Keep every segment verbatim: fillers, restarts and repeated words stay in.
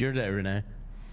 your day, Renee.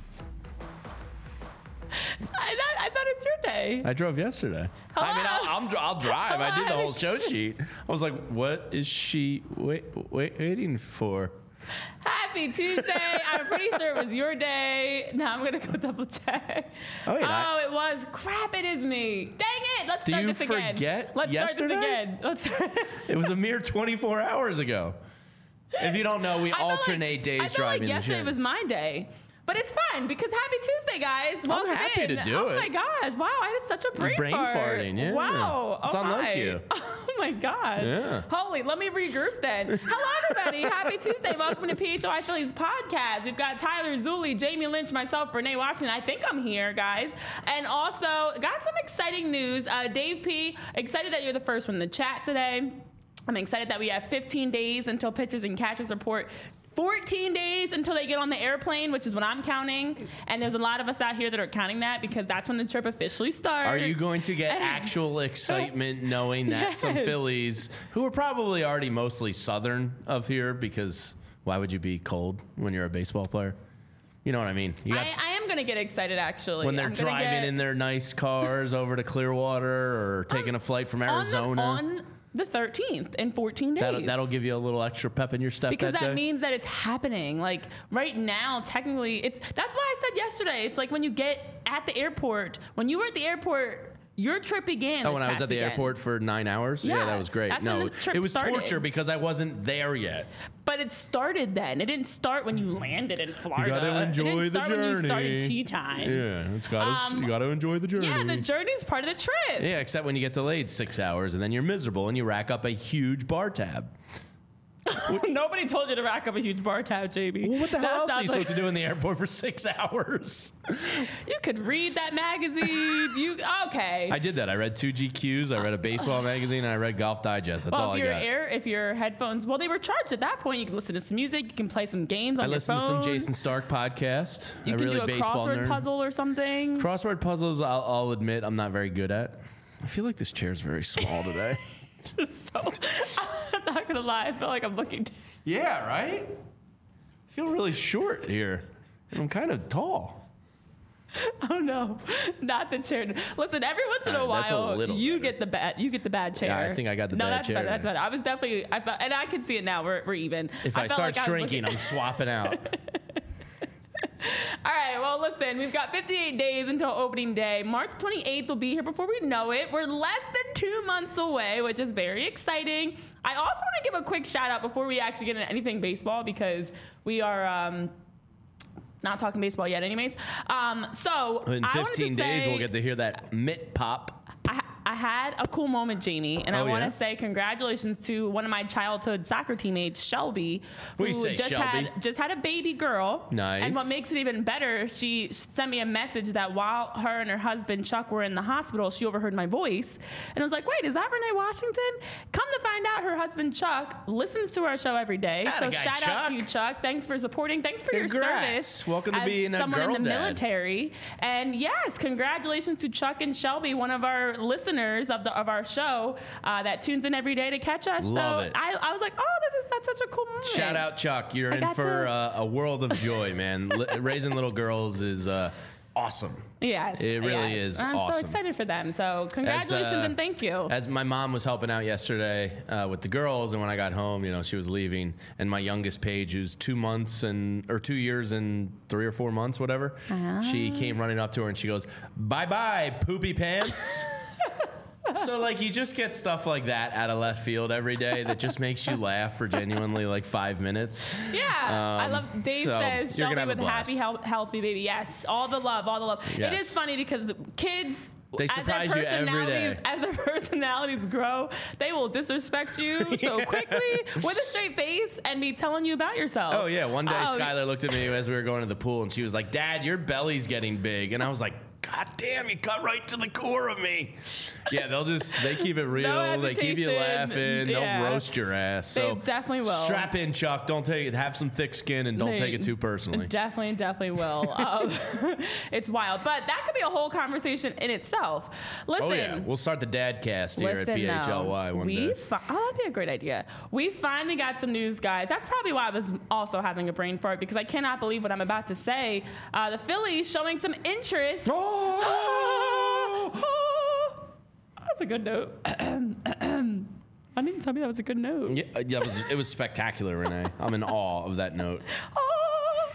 I thought, I thought it's your day. I drove yesterday. Hello? I mean, I'll, I'll, I'll drive. I did the Hello? whole show sheet. I was like, what is she wait, wait, waiting for? Happy Tuesday. I'm pretty sure it was your day. Now I'm going to go double check. Oh, wait, oh I- it was. Crap, it is me. Dang it. Let's Do start you this again. forget Let's yesterday? start this again. Let's start. It was a mere twenty-four hours ago. If you don't know, we I felt alternate like, days I felt driving like the yesterday show. was my day. But it's fine because Happy Tuesday, guys. Welcome happy in. to do oh it. Oh my gosh! Wow, I had such a brain, Brain fart. farting, yeah. Wow, It's oh unlike my. you. Oh my gosh! Yeah. Holy, let me regroup then. Hello, everybody. Happy Tuesday. Welcome to P H O I Phillies podcast. We've got Tyler Zulli, Jamie Lynch, myself, Renee Washington. I think I'm here, guys. And also got some exciting news. Uh, Dave P. Excited that you're the first one in the chat today. I'm excited that we have fifteen days until pitchers and catchers report. fourteen days until they get on the airplane, which is what I'm counting. And there's a lot of us out here that are counting that because that's when the trip officially starts. Are you going to get actual excitement knowing that Yes. some Phillies, who are probably already mostly Southern of here, because why would you be cold when you're a baseball player? You know what I mean? You got, I, I am going to get excited, actually. when they're I'm gonna driving get, in their nice cars over to Clearwater or taking a flight from on the, Arizona. on the thirteenth in fourteen days. That'll, that'll give you a little extra pep in your step because that that day. means that it's happening. Like right now, technically, it's that's why I said yesterday. It's like when you get at the airport. When you were at the airport, your trip began. Oh, this when I was past at the weekend. airport for nine hours? Yeah, Yeah, that was great. that's no, when the trip it was started. torture because I wasn't there yet. But it started then. It didn't start when you landed in Florida. gotta enjoy it didn't the start when you started journey. tea time. Yeah, it's gotta, Um, you got to enjoy the journey. Yeah, the journey's part of the trip. Yeah, except when you get delayed six hours and then you're miserable and you rack up a huge bar tab. Nobody told you to rack up a huge bar tab, J B. Well, what the That hell else are sounds you like- supposed to do in the airport for six hours? You could read that magazine. You okay? I did that. I read two G Qs, I read a baseball magazine, and I read Golf Digest. That's well, all if I your got. air, if your headphones, well, they were charged at that point. You can listen to some music. You can play some games on I your listened phone. to some Jason Stark podcast. You a can really do a baseball crossword nerd. puzzle or something. Crossword puzzles, I'll, I'll admit, I'm not very good at. I feel like this chair's very small today. So, I'm not gonna lie. I feel like I'm looking. Yeah, right? I feel really short here. And I'm kind of tall. Oh no, not the chair. Listen, every once in a All right, that's a while, little you better. get the bad. You get the bad chair. Yeah, I think I got the no, bad that's chair better. That's then. better. I was definitely. I felt, and I can see it now. We're we're even. If I, felt start like I was shrinking, looking- I'm swapping out. All right, well, listen, we've got fifty-eight days until opening day. March twenty-eighth will be here before we know it. We're less than two months away, which is very exciting. I also want to give a quick shout out before we actually get into anything baseball because we are um, not talking baseball yet anyways. Um, so In I wanted to fifteen days, say- we'll get to hear that mitt pop. I, I had a cool moment, Jamie, and I Oh, want to yeah? say congratulations to one of my childhood soccer teammates, Shelby, What do who you say, just Shelby? had just had a baby girl. Nice. And what makes it even better, she sent me a message that while her and her husband Chuck were in the hospital, she overheard my voice, and I was like, "Wait, is that Renee Washington?" Come to find out, her husband Chuck listens to our show every day. Atta so guy, shout out to Chuck. you, Chuck. Thanks for supporting. Thanks for your Congrats. service. Welcome to as being a someone girl in the dad. military. And yes, congratulations to Chuck and Shelby, one of our listeners of the of our show uh, that tunes in every day to catch us. Love so it. I, I was like, oh, this is that's such a cool moment. Shout out, Chuck. You're I in got for to- uh, a world of joy, man. Li- raising little girls is uh, awesome. Yes, It really yes. is I'm so awesome. excited for them. So congratulations As, uh, and thank you. As my mom was helping out yesterday uh, with the girls, and when I got home, you know, she was leaving, and my youngest Paige, who's two months and or two years and three or four months, whatever, she came running up to her and she goes, "Bye bye, poopy pants." So like you just get stuff like that out of left field every day that just makes you laugh for genuinely like five minutes. Yeah, I Um, love. Dave so says you're Shelby gonna have a with happy, blast. health, healthy baby. Yes, all the love, all the love. It Yes. is funny because kids. They as surprise their you every personalities- day. As their personalities grow, they will disrespect you so quickly with a straight face and be telling you about yourself. Oh yeah, one day Oh, Skylar looked at me as we were going to the pool and she was like, "Dad, your belly's getting big," and I was like, God damn, you cut right to the core of me. Yeah, they'll just, they keep it real. No they keep you laughing. Yeah. They'll roast your ass. So they definitely will. Strap in, Chuck. Don't take it. Have some thick skin and don't They take it too personally. Definitely, definitely will. um, it's wild. But that could be a whole conversation in itself. Listen. Oh, yeah. We'll start the dad cast here Listen, at P H L Y no, one we day. Fi- oh, that'd be a great idea. We finally got some news, guys. That's probably why I was also having a brain fart, because I cannot believe what I'm about to say. Uh, the Phillies showing some interest. Oh! Oh, that's a good note. I didn't tell me that was a good note. Yeah, yeah, it was, it was spectacular, Renee. I'm in awe of that note. Oh.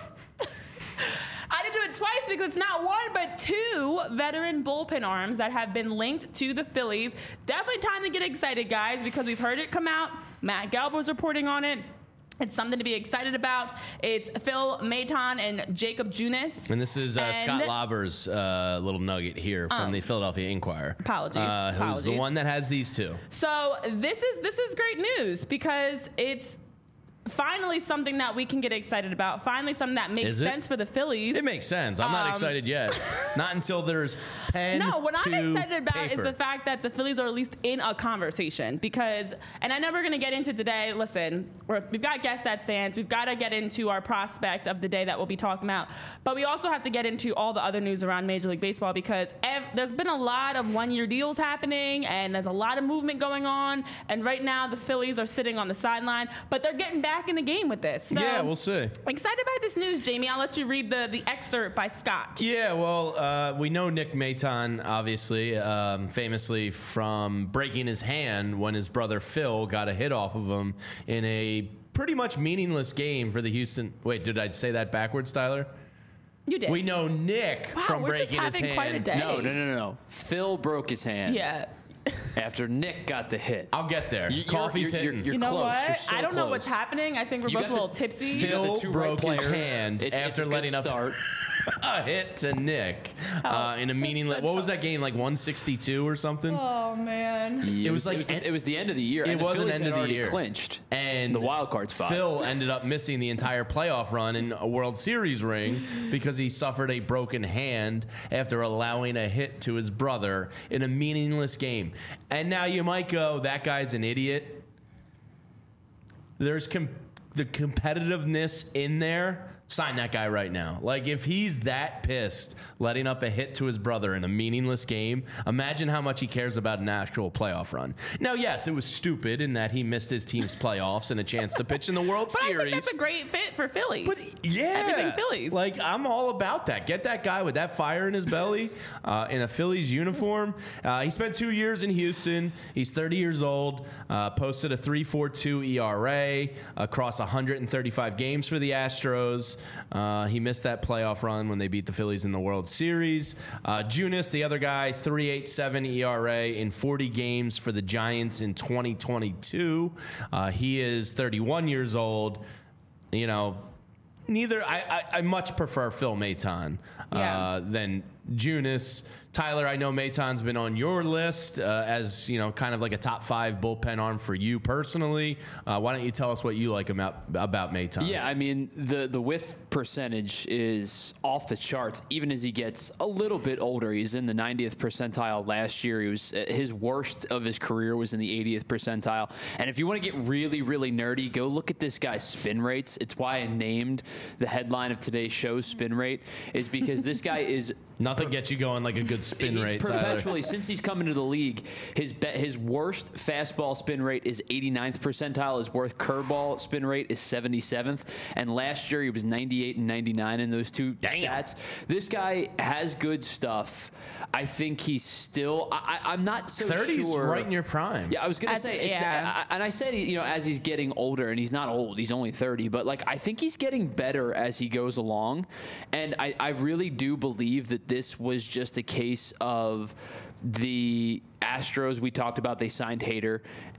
I did do it twice because it's not one but two veteran bullpen arms that have been linked to the Phillies. Definitely time to get excited, guys, because we've heard it come out. Matt Gelb was reporting on it. It's something to be excited about. It's Phil Maton and Jacob Junis. And this is uh, And- Scott Lauber's uh, little nugget here from Oh. the Philadelphia Inquirer. Apologies, Uh, who's the apologies. one that has these two. So this is this is great news because it's finally something that we can get excited about. Finally, something that makes Is it? sense for the Phillies. It makes sense. I'm not Um, excited yet. Not until there's pen No, what I'm to excited about paper. is the fact that the Phillies are at least in a conversation because, and I know we're going to get into today, listen, we're, we've got guests that stands. We've got to get into our prospect of the day that we'll be talking about. But we also have to get into all the other news around Major League Baseball because ev- there's been a lot of one-year deals happening and there's a lot of movement going on. And right now the Phillies are sitting on the sideline, but they're getting back in the game with this. So, Yeah, we'll see. excited about this news, Jamie. I'll let you read the, the excerpt by Scott. Yeah, well, uh, we know Nick Maton, obviously, um, famously from breaking his hand when his brother Phil got a hit off of him in a pretty much meaningless game for the Houston. Wait, did I say that backwards, Tyler? You did. We know Nick Wow, from we're just breaking his having quite a hand. day. No, no, no, no, no. Phil broke his hand Yeah. after Nick got the hit. I'll get there. You- you're- Coffee's you're- hitting. you're- you're You know close. what? You're so I don't know what's close. happening. I think we're You both got a little the- tipsy. you got Phil the two broke right his players. hand It's, after it's a letting good up start. a hit to Nick uh, in a meaningless. What was that game? Like one sixty-two or something? Oh man. It was was like it was, en- it was the end of the year. It and the was an Phillies end had of the already year. clinched And the wild card spot. Phil ended up missing the entire playoff run in a World Series ring because he suffered a broken hand after allowing a hit to his brother in a meaningless game. And now you might go, that guy's an idiot. There's com- the competitiveness in there. Sign that guy right now. Like, if he's that pissed letting up a hit to his brother in a meaningless game, imagine how much he cares about an actual playoff run. Now, yes, it was stupid in that he missed his team's playoffs and a chance to pitch in the World But Series. I think that's a great fit for Phillies. But yeah, Everything Phillies. Like, I'm all about that. Get that guy with that fire in his belly uh, in a Phillies uniform. Uh, he spent two years in Houston. He's thirty years old. Uh, posted a three point four two E R A across one hundred thirty-five games for the Astros. Uh, he missed that playoff run when they beat the Phillies in the World Series. Uh, Junis, the other guy, three point eight seven E R A in forty games for the Giants in twenty twenty-two. Uh, he is thirty-one years old. You know, neither I, I, I much prefer Phil Maton uh, Yeah. than Junis. Tyler, I know Maton's been on your list uh, as, you know, kind of like a top five bullpen arm for you personally. Uh, why don't you tell us what you like about about Maton? Yeah, I mean, the, the whiff percentage is off the charts, even as he gets a little bit older. He's in the ninetieth percentile last year. He was his worst of his career was in the eightieth percentile. And if you want to get really, really nerdy, go look at this guy's spin rates. It's why I named the headline of today's show Spin Rate, is because this guy is Nothing gets you going like a good spin he's rate, perpetually, Tyler. since he's come into the league, his be, his worst fastball spin rate is eighty-ninth percentile. His worst curveball spin rate is seventy-seventh. And last year he was ninety-eight and ninety-nine in those two Damn. stats. This guy has good stuff. I think he's still. I, I, I'm not so thirty's sure. right in your prime. Yeah, I was gonna As- say, it's yeah. I, and I said, you know, as he's getting older, and he's not old, he's only thirty, but like I think he's getting better as he goes along, and I, I really do believe that this was just a case of the Astros. We talked about they signed Hader,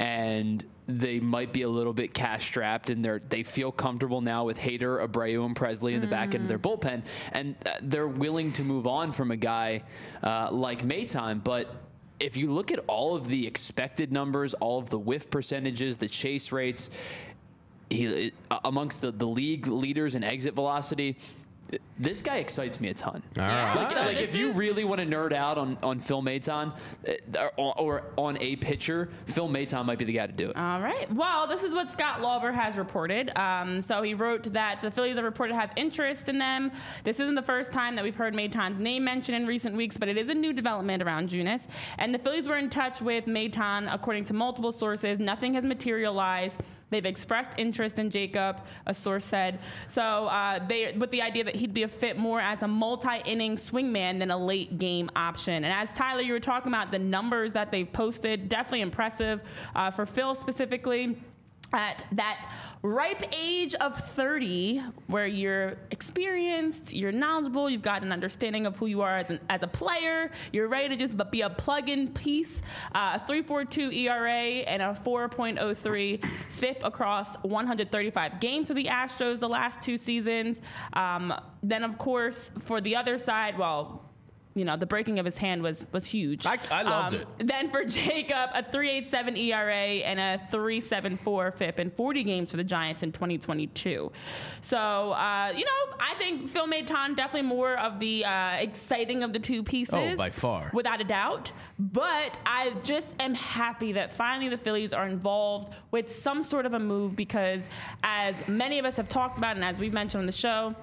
and they might be a little bit cash strapped, and they're they feel comfortable now with Hader, Abreu, and Presley in the back end of their bullpen, and uh, they're willing to move on from a guy uh, like Maton, but. If you look at all of the expected numbers, all of the whiff percentages, the chase rates, he, amongst the, the league leaders in exit velocity, This guy excites me a ton. All right. Like, So like this if you is- really want to nerd out on, on Phil Maton uh, or, or on a pitcher, Phil Maton might be the guy to do it. All right. Well, this is what Scott Lauber has reported. Um, so he wrote that the Phillies are reported to have interest in them. This isn't the first time that we've heard Maton's name mentioned in recent weeks, but it is a new development around Junis. And the Phillies were in touch with Maton, according to multiple sources. Nothing has materialized. They've expressed interest in Jacob, a source said. So uh, they, with the idea that he'd be a fit more as a multi-inning swingman than a late game option. And as Tyler, you were talking about the numbers that they've posted, definitely impressive uh, for Phil specifically. At that ripe age of thirty, where you're experienced, you're knowledgeable, you've got an understanding of who you are as, an, as a player, you're ready to just be a plug-in piece. Uh, a three point four two E R A and a four point oh three F I P across one hundred thirty-five games for the Astros the last two seasons. Um, then, of course, for the other side, well, you know, the breaking of his hand was was huge. I, I loved Um, it. Then for Jacob, a three point eight seven E R A and a three point seven four F I P in forty games for the Giants in twenty twenty-two. So, uh, you know, I think Phil Maton definitely more of the uh, exciting of the two pieces. Oh, by far. Without a doubt. But I just am happy that finally the Phillies are involved with some sort of a move because, as many of us have talked about and as we've mentioned on the show,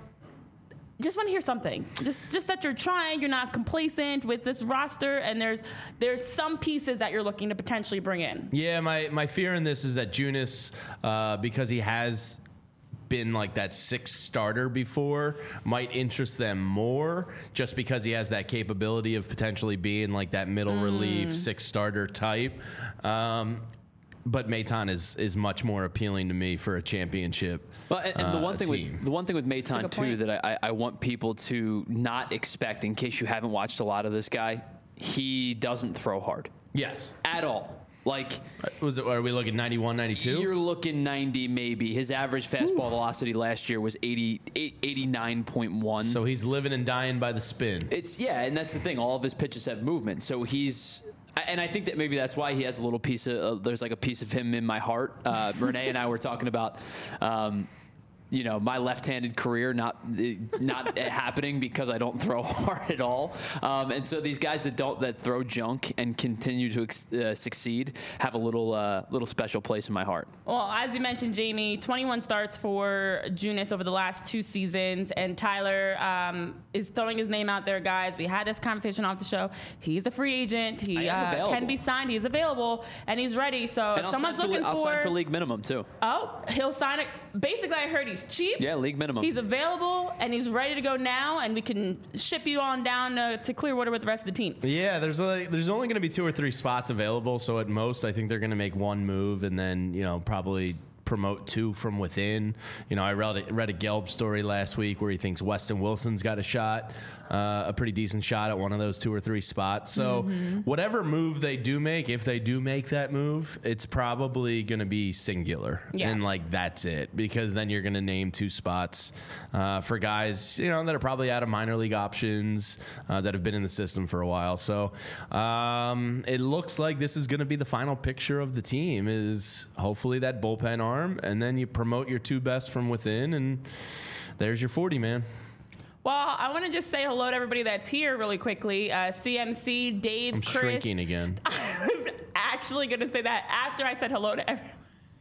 just want to hear something. Just just that you're trying, you're not complacent with this roster, and there's there's some pieces that you're looking to potentially bring in. Yeah, my, my fear in this is that Junis, uh, because he has been like that sixth starter before, might interest them more just because he has that capability of potentially being like that middle Mm. relief sixth starter type. Um, but Maton is is much more appealing to me for a championship. Well, and, and the uh, one thing team. with the one thing with That's a Maton good too point. that I, I want people to not expect, in case you haven't watched a lot of this guy, he doesn't throw hard Yes. at all. Like Was it? Are we looking ninety-one, ninety-two? you're looking ninety maybe. His average fastball velocity last year was eighty, eighty-nine point one. So he's living and dying by the spin. It's yeah, and that's the thing. All of his pitches have movement, so he's. And I think that maybe that's why he has a little piece of. Uh, there's like a piece of him in my heart. Uh, Renee and I were talking about. Um, you know, my left-handed career not not happening because I don't throw hard at all. Um, and so these guys that don't that throw junk and continue to ex- uh, succeed have a little uh, little special place in my heart. Well, as you mentioned, Jamie, twenty-one starts for Junis over the last two seasons, and Tyler um, is throwing his name out there, guys. We had this conversation off the show. He's a free agent. He I am uh, available. can be signed. He's available, and he's ready. So And if I'll someone's sign for, looking I'll for, sign for league minimum too. oh, he'll sign it. Basically, I heard he's cheap. Yeah, league minimum. He's available, and he's ready to go now, and we can ship you on down uh, to Clearwater with the rest of the team. Yeah, there's like there's only going to be two or three spots available, so at most I think they're going to make one move and then, you know, probably promote two from within. You know, I read a, read a Gelb story last week where he thinks Weston Wilson's got a shot, uh, a pretty decent shot at one of those two or three spots. So Mm-hmm. whatever move they do make, if they do make that move, it's probably going to be singular. Yeah. And like that's it, because then you're going to name two spots uh, for guys, you know, that are probably out of minor league options uh, that have been in the system for a while. So um, it looks like this is going to be the final picture of the team, is hopefully that bullpen arm, and then you promote your two best from within, and there's your forty, man. Well, I want to just say hello to everybody that's here really quickly. Uh, C M C, Dave, I'm Chris. shrinking again. I was actually going to say that after I said hello to everyone.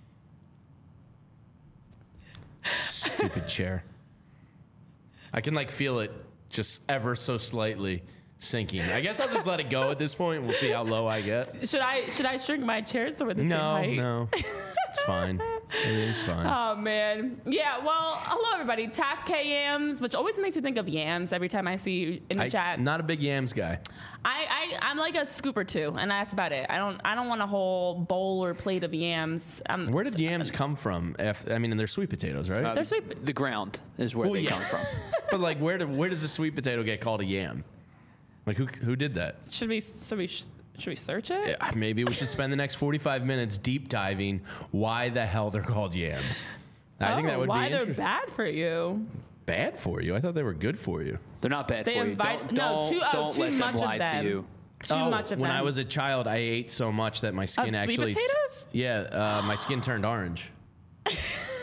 Stupid chair. I can like feel it just ever so slightly sinking. I guess I'll just let it go at this point. We'll see how low I get. Should I should I shrink my chair so we're the same No, height? no. It's fine. It's fine. Oh man, yeah. Well, hello everybody. T A F K Yams, which always makes me think of yams every time I see you in the I, chat. not a big yams guy. I, I I'm like a scoop or two, and that's about it. I don't I don't want a whole bowl or plate of yams. Um, Where did yams come from? If, I mean, they're sweet potatoes, right? Uh, They're sweet. The ground is where Well, they yes. come from. But like, where do, where does the sweet potato get called a yam? Like, who who did that? Should we should we should we search it? Yeah, maybe we should spend the next forty-five minutes deep diving why the hell they're called yams. I oh, think that would why be they're interesting. bad for you? Bad for you? I thought they were good for you. They're not bad They for invite you. Don't, no don't, too oh, don't too let much them lie of them. to you. Too oh, much of when them. I was a child, I ate so much that my skin sweet actually potatoes? yeah, uh, my skin turned orange.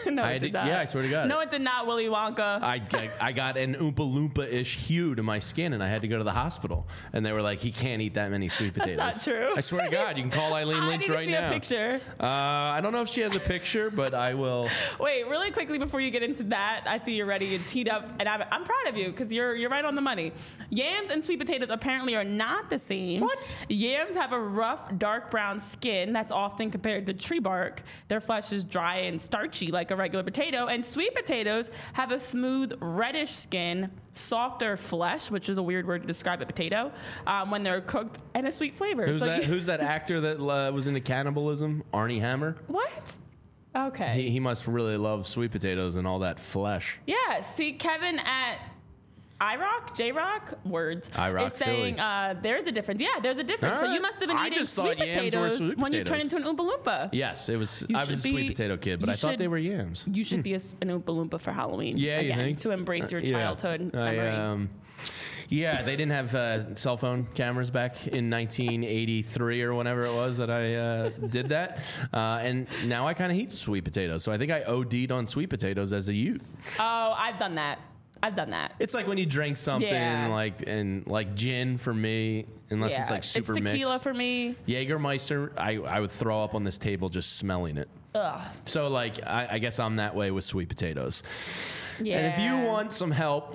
no, I it had did to- not. yeah, I swear to God. No, it did not, Willy Wonka. I, I, I got an Oompa Loompa-ish hue to my skin, and I had to go to the hospital. And they were like, he can't eat that many sweet potatoes. not true. I swear to God, you can call Eileen I Lynch need to right see now. a picture. Uh, I don't know if she has a picture, but I will. Wait, really quickly before you get into that, I see you're ready and teed up, and I'm, I'm proud of you because you're you're right on the money. Yams and sweet potatoes apparently are not the same. What? Yams have a rough, dark brown skin that's often compared to tree bark. Their flesh is dry and starchy like a regular potato, and sweet potatoes have a smooth, reddish skin, softer flesh, which is a weird word to describe a potato, um, when they're cooked, and a sweet flavor. Who's So that? you- Who's that actor that uh, was into cannibalism? Arnie Hammer. What? Okay. He, he must really love sweet potatoes and all that flesh. Yeah, see, Kevin at iRock, J-Rock, words, iRock is saying uh, there's a difference. Yeah, there's a difference. All So right. you must have been I eating just sweet thought yams were potatoes sweet when you turn potatoes. into an Oompa Loompa. Yes, it was. You I was a should sweet be- potato kid, but you I thought should- they were yams. You should be a, an Oompa Loompa for Halloween. Yeah, you again, think? to embrace your Yeah. childhood I, memory. um, yeah, they didn't have uh, cell phone cameras back in nineteen eighty-three or whenever it was that I uh, did that. Uh, and now I kind of eat sweet potatoes. So I think I O D'd on sweet potatoes as a youth. Oh, I've done that. I've done that. It's like when you drink something Yeah. like and like gin for me, unless yeah. it's like super It's tequila mixed. for me. Jägermeister, I, I would throw up on this table just smelling it. Ugh. So like I, I guess I'm that way with sweet potatoes. Yeah. And if you want some help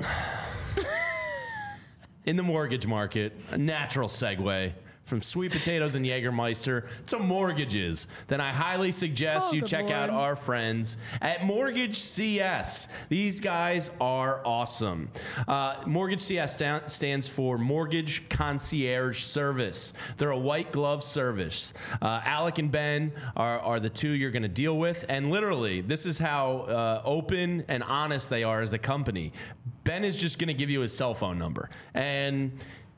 in the mortgage market, a natural segue from sweet potatoes and Jägermeister to mortgages, then I highly suggest Oh, you good check out Lord. our friends at Mortgage C S. These guys are awesome. Uh, Mortgage C S sta- stands for Mortgage Concierge Service. They're a white glove service. Uh, Alec and Ben are, are the two you're going to deal with, and literally, this is how uh, open and honest they are as a company. Ben is just going to give you his cell phone number, and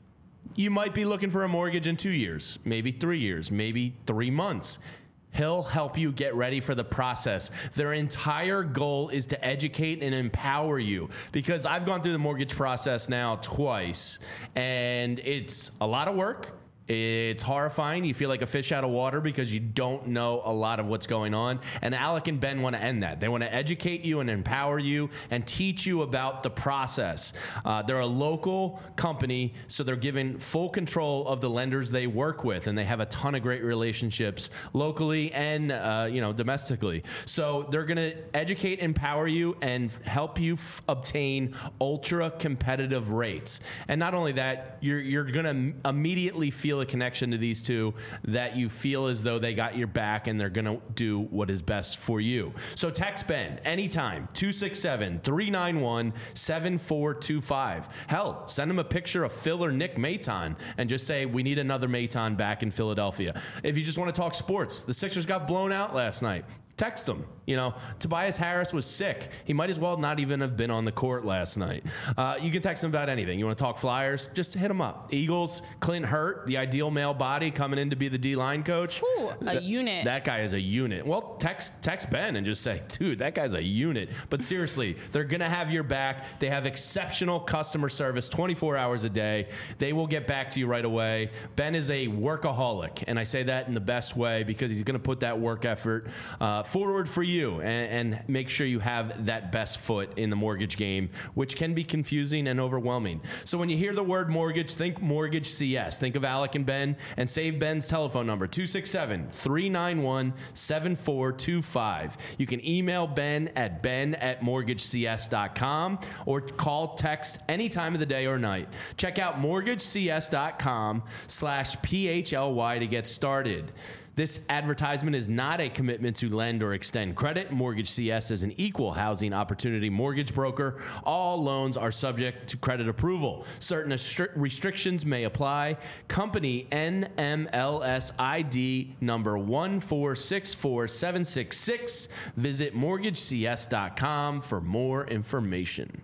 you might be looking for a mortgage in two years, maybe three years, maybe three months. He'll help you get ready for the process. Their entire goal is to educate and empower you, because I've gone through the mortgage process now twice, and it's a lot of work. It's horrifying. You feel like a fish out of water because you don't know a lot of what's going on. And Alec and Ben want to end that. They want to educate you and empower you and teach you about the process. Uh, they're a local company, so they're given full control of the lenders they work with, and they have a ton of great relationships locally and uh, you know domestically. So they're going to educate, empower you, and help you f- obtain ultra competitive rates. And not only that, you're you're going to m- immediately feel a connection to these two, that you feel as though they got your back and they're going to do what is best for you. So text Ben anytime, two six seven, three nine one, seven four two five. Hell, send him a picture of Phil or Nick Maton and just say, we need another Maton back in Philadelphia. If you just want to talk sports, the Sixers got blown out last night. Text him. You know, Tobias Harris was sick. He might as well not even have been on the court last night. Uh, you can text him about anything. You want to talk Flyers? Just hit him up. Eagles, Clint Hurt, the ideal male body coming in to be the D-line coach. Ooh, a Th- unit. That guy is a unit. Well, text text Ben and just say, dude, that guy's a unit. But seriously, they're going to have your back. They have exceptional customer service twenty-four hours a day. They will get back to you right away. Ben is a workaholic, and I say that in the best way because he's going to put that work effort uh, forward for you and, and make sure you have that best foot in the mortgage game, which can be confusing and overwhelming. So when you hear the word mortgage, think Mortgage C S. Think of Alec and Ben, and save Ben's telephone number, two six seven, three nine one, seven four two five. You can email Ben at ben at mortgage c s dot com or call, text any time of the day or night. Check out mortgage c s dot com slash P H L Y to get started. This advertisement is not a commitment to lend or extend credit. Mortgage C S is an equal housing opportunity mortgage broker. All loans are subject to credit approval. Certain restri- restrictions may apply. Company N M L S I D number one four six four seven six six. Visit mortgage c s dot com for more information.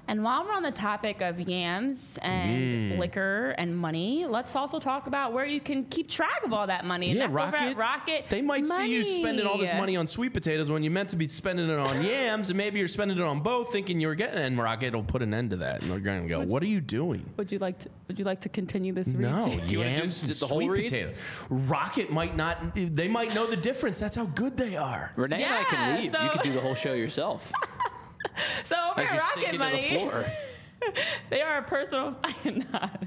And while we're on the topic of yams and Mm. liquor and money, let's also talk about where you can keep track of all that money. And Yeah, that's over Rocket. at Rocket They might see you Money. spending all this money on sweet potatoes when you meant to be spending it on yams, and maybe you're spending it on both, thinking you were getting it. And Rocket will put an end to that, and they're going to go, "What are you doing?" Would you like to? Would you like to continue this? read? No, Do you wanna do yams and the whole sweet read? potato. Rocket might not. They might know the difference. That's how good they are. Renee and I can Yeah, leave. so- You can do the whole show yourself. So over As at you Rocket sink into Money, the floor. they are a personal. I am not.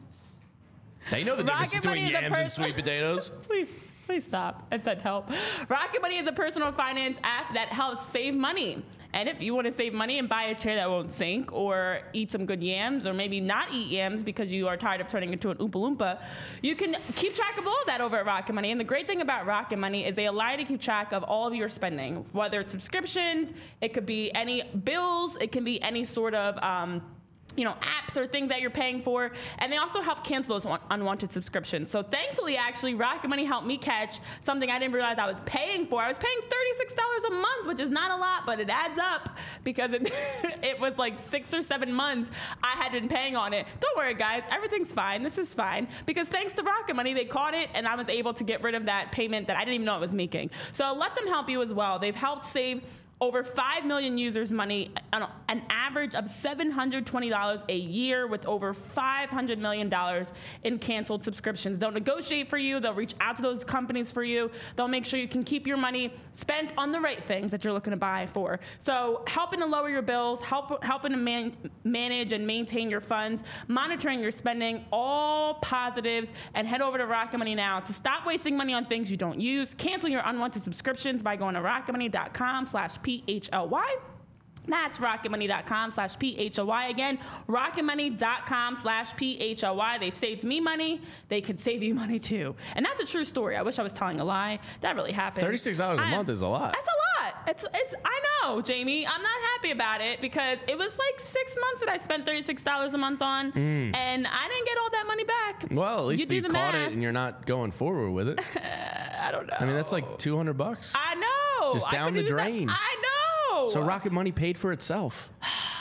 They know the difference Rocket between Money is a yams and person- sweet potatoes. Please, please stop. It said help. Rocket Money is a personal finance app that helps save money. And if you want to save money and buy a chair that won't sink, or eat some good yams, or maybe not eat yams because you are tired of turning into an Oompa Loompa, you can keep track of all of that over at Rocket Money. And the great thing about Rocket Money is they allow you to keep track of all of your spending, whether it's subscriptions, it could be any bills, it can be any sort of um, you know, apps or things that you're paying for. And they also help cancel those un- unwanted subscriptions. So thankfully, actually, Rocket Money helped me catch something I didn't realize I was paying for. I was paying thirty-six dollars a month, which is not a lot, but it adds up because it, it was like six or seven months I had been paying on it. Don't worry, guys. Everything's fine. This is fine. Because thanks to Rocket Money, they caught it, and I was able to get rid of that payment that I didn't even know I was making. So let them help you as well. They've helped save over five million users money, an average of seven hundred twenty dollars a year, with over five hundred million dollars in canceled subscriptions. They'll negotiate for you. They'll reach out to those companies for you. They'll make sure you can keep your money spent on the right things that you're looking to buy for. So helping to lower your bills, help, helping to man, manage and maintain your funds, monitoring your spending, all positives. And head over to Rocket Money now to stop wasting money on things you don't use. Cancel your unwanted subscriptions by going to rocketmoney.com slash P H L Y. That's rocketmoney.com slash P H L Y. Again, rocketmoney.com slash P H L Y. They've saved me money. They could save you money too. And that's a true story. I wish I was telling a lie. That really happened. thirty-six dollars a I- month is a lot. That's a lot. It's, it's, I know, Jamie. I'm not happy about it because it was like six months that I spent thirty-six dollars a month on, Mm. and I didn't get all that money back. Well, at least you you, do the caught math. it and you're not going forward with it. I don't know. I mean, that's like two hundred bucks. I know. Just I down could the use that- drain. I know. So Rocket Money paid for itself.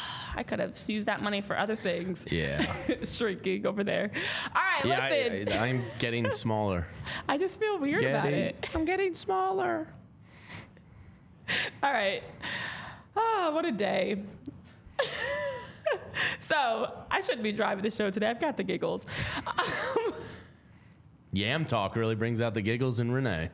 I could have used that money for other things. Yeah. Shrinking over there. All right, Yeah, listen. I, I, I'm getting smaller. I just feel weird about Getting- it. I'm getting smaller. All right. Oh, what a day. So, I shouldn't be driving the show today. I've got the giggles. Um, Yam talk really brings out the giggles in Renee.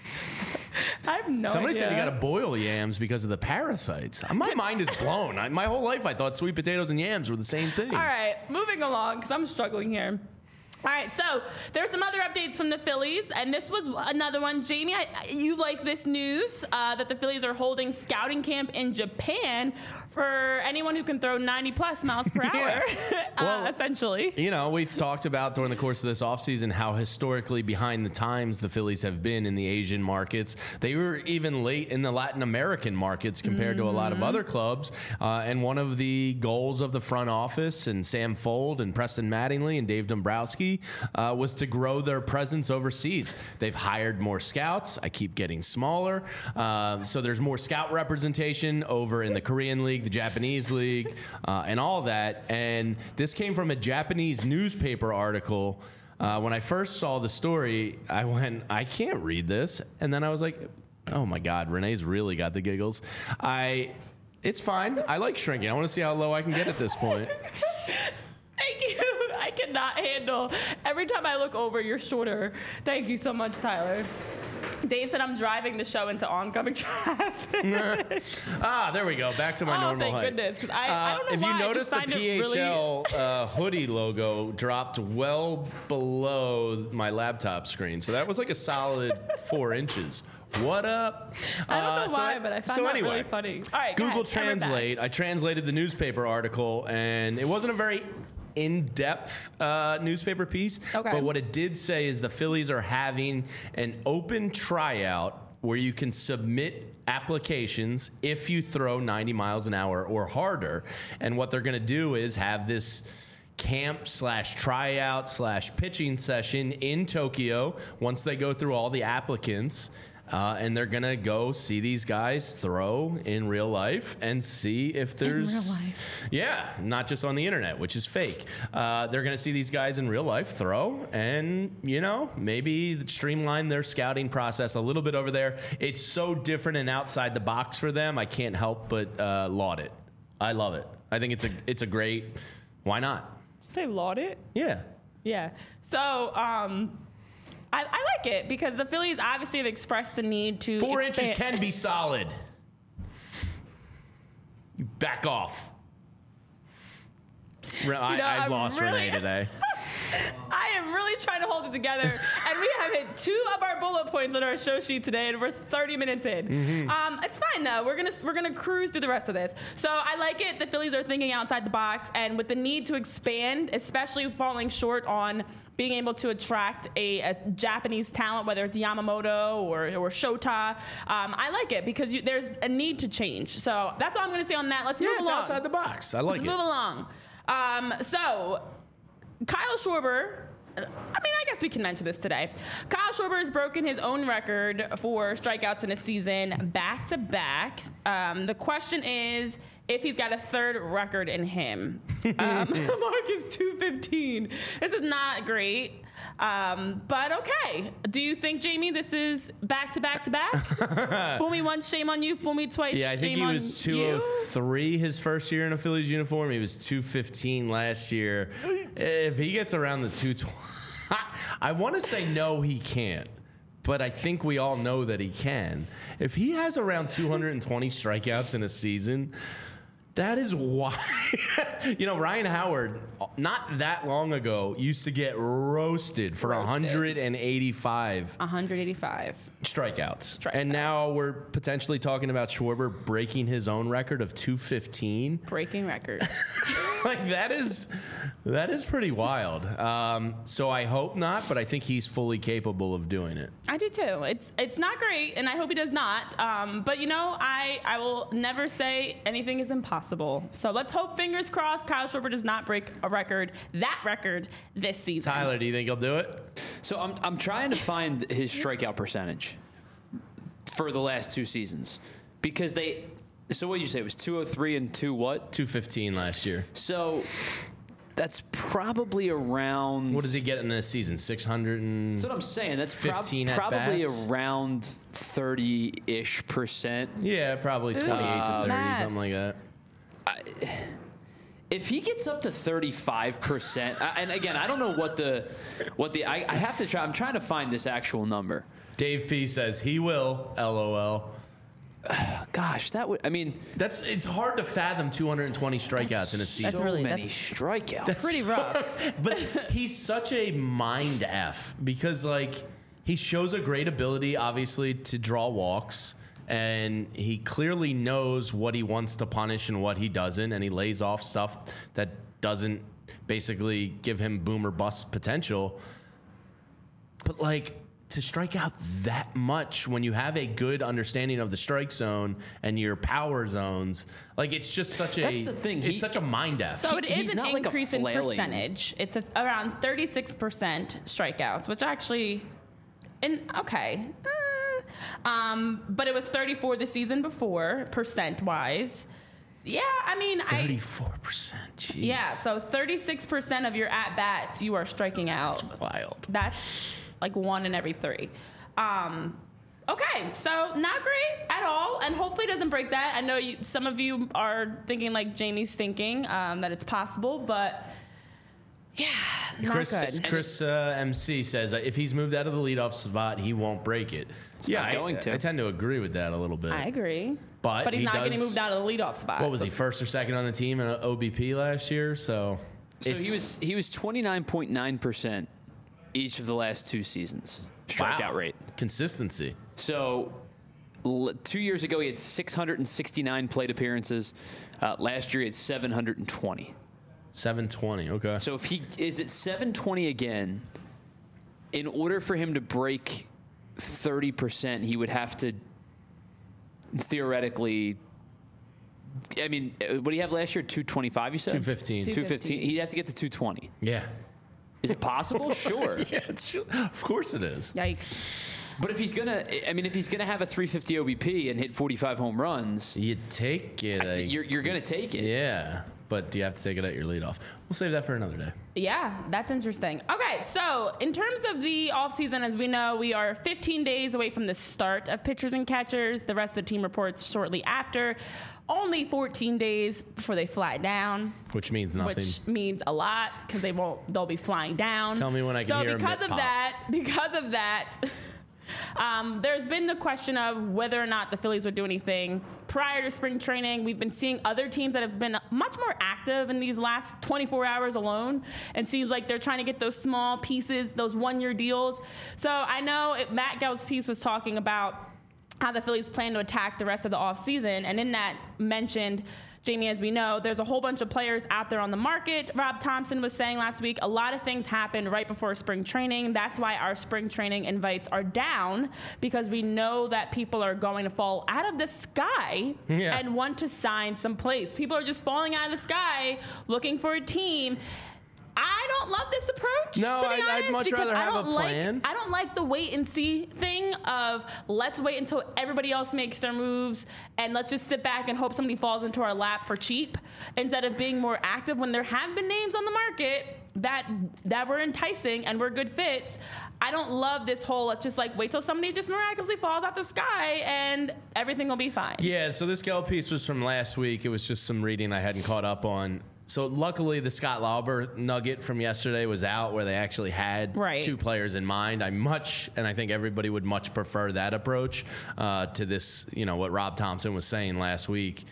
I have no Somebody idea. said you got to boil yams because of the parasites. My mind is blown. I, my whole life I thought sweet potatoes and yams were the same thing. All right, moving along because I'm struggling here. All right, so there's some other updates from the Phillies, and this was another one. Jamie, I, you like this news uh, that the Phillies are holding scouting camp in Japan for anyone who can throw ninety plus miles per hour, Yeah. uh, Well, essentially. You know, we've talked about during the course of this offseason how historically behind the times the Phillies have been in the Asian markets. They were even late in the Latin American markets compared mm-hmm. to a lot of other clubs. Uh, and one of the goals of the front office and Sam Fold and Preston Mattingly and Dave Dombrowski uh, was to grow their presence overseas. They've hired more scouts. I keep getting smaller. Uh, so there's more scout representation over in the Korean League, the Japanese League, uh, and all that. And this came from a Japanese newspaper article. Uh, when I first saw the story, I went, I can't read this. And then I was like, oh my God, Renee's really got the giggles. I, it's fine. I like shrinking. I want to see how low I can get at this point. Thank you. I cannot handle. Every time I look over, you're shorter. Thank you so much, Tyler. Dave said I'm driving the show into oncoming traffic. Ah, there we go. Back to my oh, normal thank height. goodness. 'Cause I, I Uh, don't know if why. you I notice just the find it P H really- L uh, hoodie logo dropped well below my laptop screen, so that was like a solid four inches. What up? I don't know Uh, so why, I- but I found so that anyway, really funny. All right, go Google ahead, camera back. Translate. I translated the newspaper article, and it wasn't a very in-depth uh, newspaper piece. Okay. But what it did say is the Phillies are having an open tryout where you can submit applications if you throw ninety miles an hour or harder. And what they're going to do is have this camp slash tryout slash pitching session in Tokyo once they go through all the applicants. Uh, and they're going to go see these guys throw in real life and see if there's. In real life. Yeah, not just on the internet, which is fake. Uh, they're going to see these guys in real life throw and, you know, maybe streamline their scouting process a little bit over there. It's so different and outside the box for them. I can't help but uh, laud it. I love it. I think it's a it's a great. Why not? Say laud it? Yeah. Yeah. So, um, I, I like it because the Phillies obviously have expressed the need to Four expand. inches can be solid. You back off. Re- I, You know, I've I'm lost really- Renee today. I am really trying to hold it together, and we have hit two of our bullet points on our show sheet today, and we're thirty minutes in. Mm-hmm. Um, it's fine though. We're gonna we're gonna cruise through the rest of this. So I like it. The Phillies are thinking outside the box, and with the need to expand, especially falling short on being able to attract a, a Japanese talent, whether it's Yamamoto or or Shota. Um, I like it because you, there's a need to change. So that's all I'm gonna say on that. Let's Yeah, move it's along. outside the box. I like Let's it. move along. Um, so. Kyle Schwarber, I mean, I guess we can mention this today. Kyle Schwarber has broken his own record for strikeouts in a season back to back. Um, the question is if he's got a third record in him. Um, the mark is two fifteen. This is not great. Um, but okay. Do you think, Jamie, this is back to back to back? Fool me once, shame on you. Fool me twice, Yeah, I think shame he was on two you. oh three his first year in a Phillies uniform. He was two fifteen last year. If he gets around the two twenty, I want to say no, he can't. But I think we all know that he can. If he has around two hundred twenty strikeouts in a season, that is why. You know, Ryan Howard, not that long ago, used to get roasted for Roasted. one hundred eighty-five one eighty-five. strikeouts. Strikeouts. And now we're potentially talking about Schwarber breaking his own record of two fifteen. Breaking records. Like that is that is pretty wild. Um, so I hope not, but I think he's fully capable of doing it. I do too. It's it's not great, and I hope he does not. Um, but you know, I I will never say anything is impossible. So let's hope, fingers crossed, Kyle Schwarber does not break a record, that record this season. Tyler, do you think he'll do it? So I'm I'm trying to find his strikeout percentage for the last two seasons because they. So what did you say? It was two oh three and two what? two fifteen last year. So that's probably around. What does he get in a season? six hundred and That's what I'm saying. That's prob- fifteen at probably bats? around thirty-ish percent. Yeah, probably twenty-eight to thirty, math. something like that. If he gets up to thirty-five percent, and again, I don't know what the what the I, I have to try. I'm trying to find this actual number. Dave P says he will. L O L. Gosh, that would. I mean, That's it's hard to fathom two hundred twenty strikeouts in a season. so really- many that's- strikeouts. Pretty rough. But he's such a mind F because, like, he shows a great ability, obviously, to draw walks. And he clearly knows what he wants to punish and what he doesn't. And he lays off stuff that doesn't basically give him boom or bust potential. But, like, to strike out that much when you have a good understanding of the strike zone and your power zones, like, it's just such a. That's the thing. It's He- such a mind F. So it He- is he's an not like a increase in flailing- percentage. It's a, around thirty-six percent strikeouts, which actually, in okay. Uh, um, but it was thirty-four the season before, percent-wise. Yeah, I mean, I. thirty-four percent. Jeez. Yeah, so thirty-six percent of your at-bats, you are striking out. Wild. That's like one in every three. Um, okay, so not great at all, and hopefully doesn't break that. I know you, some of you are thinking like Jamie's thinking, um, that it's possible, but yeah, not Chris, good. Chris uh, M C says uh, if he's moved out of the leadoff spot, he won't break it. yeah, not I, going to. I tend to agree with that a little bit. I agree. But but he's he not getting does- moved out of the leadoff spot. What was he, first or second on the team in O B P last year? So, So it's- he was he was twenty-nine point nine percent each of the last two seasons strikeout wow. rate. Consistency. So l- two years ago he had six hundred sixty-nine plate appearances. Uh, last year he had seven hundred twenty. seven twenty. Okay. So if he is at seven twenty again, in order for him to break thirty percent, he would have to theoretically. I mean, uh, what do you have last year? two twenty-five, you said? two fifteen. Two- two fifteen. He'd have to get to two twenty. Yeah. Is it possible? Sure. Yeah, it's, of course it is. Yikes. But if he's gonna, I mean, if he's gonna have a three fifty O B P and hit forty-five home runs, you take it. I you're you're gonna take it. Yeah, but do you have to take it at your leadoff? We'll save that for another day. Yeah, that's interesting. Okay, so in terms of the offseason, as we know, we are fifteen days away from the start of pitchers and catchers. The rest of the team reports shortly after. Only fourteen days before they fly down. Which means nothing. Which means a lot because they won't. They'll be flying down. Tell me when I can so hear a because mitt of pop. that, because of that, um, there's been the question of whether or not the Phillies would do anything prior to spring training. We've been seeing other teams that have been much more active in these last twenty-four hours alone, and seems like they're trying to get those small pieces, those one-year deals. So I know it, Matt Gelb's piece was talking about how the Phillies plan to attack the rest of the offseason, and in that mentioned, Jamie, as we know, there's a whole bunch of players out there on the market. Rob Thompson was saying last week, a lot of things happen right before spring training. That's why our spring training invites are down, because we know that people are going to fall out of the sky yeah. and want to sign some place. People are just falling out of the sky looking for a team. I don't love this approach. No, to be I'd, honest, I'd much because rather I have a don't plan. Like, I don't like the wait and see thing of let's wait until everybody else makes their moves and let's just sit back and hope somebody falls into our lap for cheap, instead of being more active when there have been names on the market that that were enticing and were good fits. I don't love this whole let's just like wait till somebody just miraculously falls out the sky and everything will be fine. Yeah, so this Gelb piece was from last week. It was just some reading I hadn't caught up on. So luckily, the Scott Lauber nugget from yesterday was out, where they actually had right. two players in mind. I much, and I think everybody would much prefer that approach uh, to this, you know, what Rob Thompson was saying last week.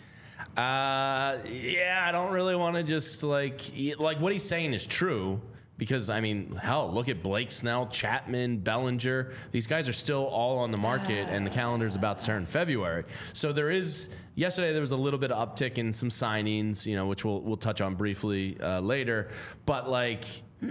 Uh, yeah, I don't really want to just like, like what he's saying is true. Because, I mean, hell, look at Blake Snell, Chapman, Bellinger. These guys are still all on the market, and the calendar's about to start in February. So there is, yesterday there was a little bit of uptick in some signings, you know, which we'll we'll touch on briefly uh, later. But, like,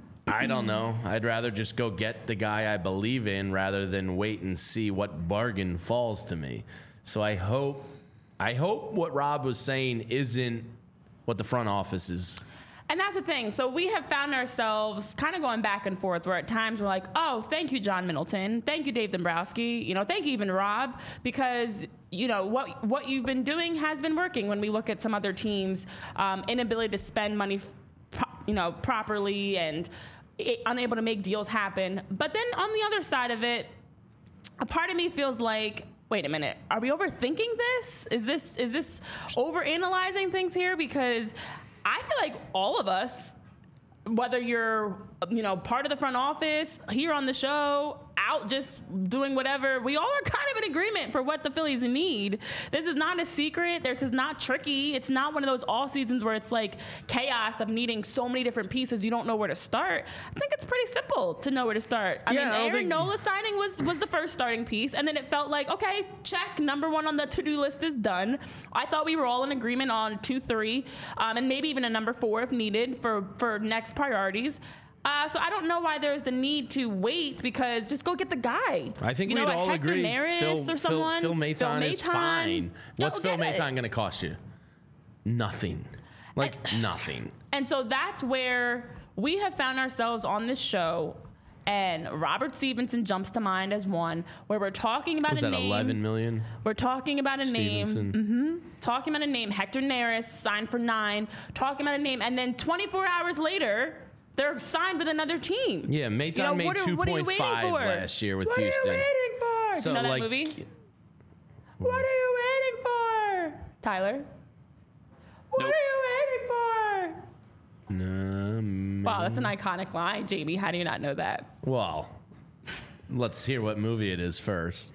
I don't know. I'd rather just go get the guy I believe in rather than wait and see what bargain falls to me. So I hope, I hope what Rob was saying isn't what the front office is. And that's the thing. So we have found ourselves kind of going back and forth, where at times we're like, oh, thank you, John Middleton. Thank you, Dave Dombrowski. You know, thank you, even Rob, because, you know, what what you've been doing has been working when we look at some other teams' um, inability to spend money, you know, properly and it, unable to make deals happen. But then on the other side of it, a part of me feels like, wait a minute, are we overthinking this? Is this is this overanalyzing things here? Because I feel like all of us, whether you're, you know, part of the front office, here on the show, out just doing whatever, we all are kind of in agreement for what the Phillies need. This is not a secret. This is not tricky. It's not one of those all seasons where it's like chaos of needing so many different pieces you don't know where to start. I think it's pretty simple to know where to start. I yeah, mean, I Aaron think... Nola signing was, was the first starting piece, and then it felt like, okay, check, number one on the to-do list is done. I thought we were all in agreement on two, three, um, and maybe even a number four if needed for, for next priorities. Uh, so I don't know why there's the need to wait, because just go get the guy. I think you we'd know, all Hector agree Neris Phil, or someone. Phil, Phil Maton Phil is Maton. fine. What's Go Phil get Maton it. going to cost you? Nothing. Like and, nothing. And so that's where we have found ourselves on this show, and Robert Stevenson jumps to mind as one, where we're talking about Was a that name. eleven million? We're talking about a Stevenson. name. Mm-hmm. Talking about a name. Hector Neris signed for nine. Talking about a name, and then twenty-four hours later, they're signed with another team. Yeah, Maton you know, made two point five last year with what Houston. What are you waiting for? So, you know that like, movie? What are you waiting for, Tyler? What Nope. are you waiting for? No, Wow, that's an iconic line, Jamie. How do you not know that? well, let's hear what movie it is first.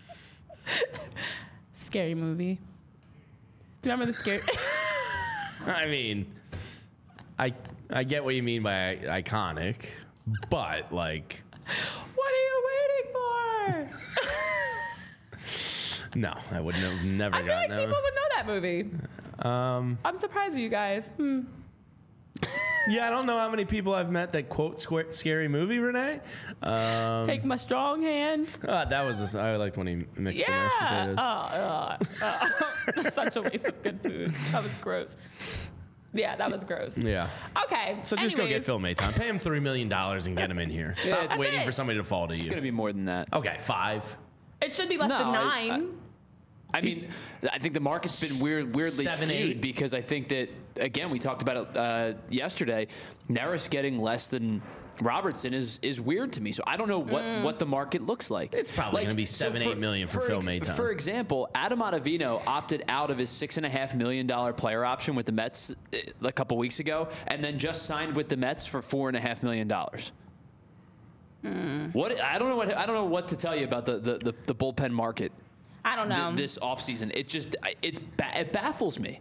Scary movie. Do you remember the scary? I mean, I I get what you mean by iconic, but like, What are you waiting for? no, I would have never I feel gotten like people that. would know that movie. Um, I'm surprised at you guys. Hmm. yeah, I don't know how many people I've met that quote squ- scary movie, Renee. Um, Take my strong hand. uh, that was just, I liked when he mixed Yeah. the mashed potatoes. Oh, uh, uh, that's such a waste of good food. That was gross. Yeah, that was gross. Yeah. Okay. So just go get anyways. Phil Maton. Pay him three million dollars and get him in here. Stop it's- waiting That's it. for somebody to fall to you. It's going to be more than that. Okay, five. It should be less No, than I- nine. I mean, I think the market's been weird, weirdly Seven, skewed eight. because I think that, again, we talked about it uh, yesterday. Neris getting less than Robertson is is weird to me. So I don't know what, Mm. what the market looks like. It's probably gonna be seven, eight million for Phil Maton. For example, Adam Ottavino opted out of his six and a half million dollar player option with the Mets uh, a couple weeks ago, and then just signed with the Mets for four and a half million dollars. Mm. What I don't know what I don't know what to tell you about the the, the, the bullpen market. I don't know. Th- this offseason. It just it's ba- it baffles me.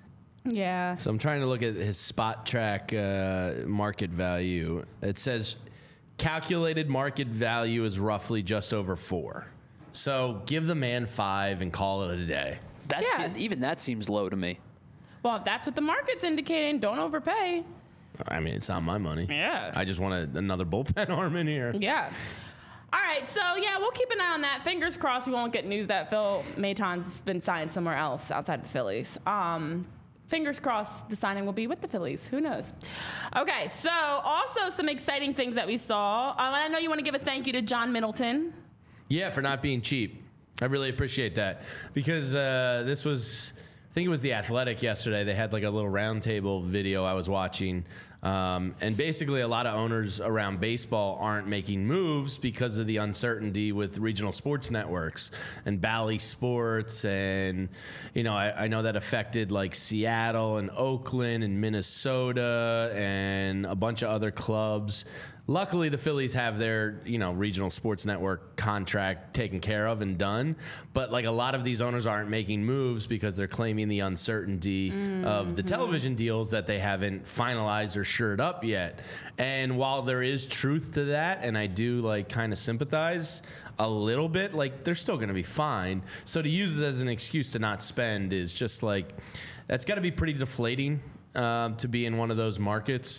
yeah. So I'm trying to look at his spot track uh, market value. It says calculated market value is roughly just over four. So give the man five and call it a day. That's Yeah. even that seems low to me. Well, if that's what the market's indicating, don't overpay. I mean, it's not my money. Yeah. I just want a, another bullpen arm in here. Yeah. All right, so yeah, we'll keep an eye on that. Fingers crossed we won't get news that Phil Maton's been signed somewhere else outside the Phillies. Um, fingers crossed the signing will be with the Phillies. Who knows? Okay, so also some exciting things that we saw. Um, and I know you want to give a thank you to John Middleton. Yeah, for not being cheap. I really appreciate that because uh, this was, I think it was The Athletic yesterday. They had like a little roundtable video I was watching. Um, and basically, a lot of owners around baseball aren't making moves because of the uncertainty with regional sports networks and Bally Sports. And, you know, I, I know that affected like Seattle and Oakland and Minnesota and a bunch of other clubs. Luckily, the Phillies have their, you know, regional sports network contract taken care of and done. But like a lot of these owners aren't making moves because they're claiming the uncertainty mm-hmm. of the television deals that they haven't finalized or shored up yet. And while there is truth to that, and I do like kind of sympathize a little bit, like they're still going to be fine. So to use it as an excuse to not spend is just like, that's got to be pretty deflating um, to be in one of those markets.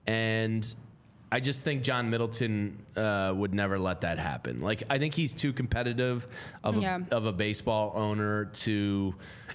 And I just think John Middleton uh, would never let that happen. Like, I think he's too competitive of a, Yeah. of a baseball owner to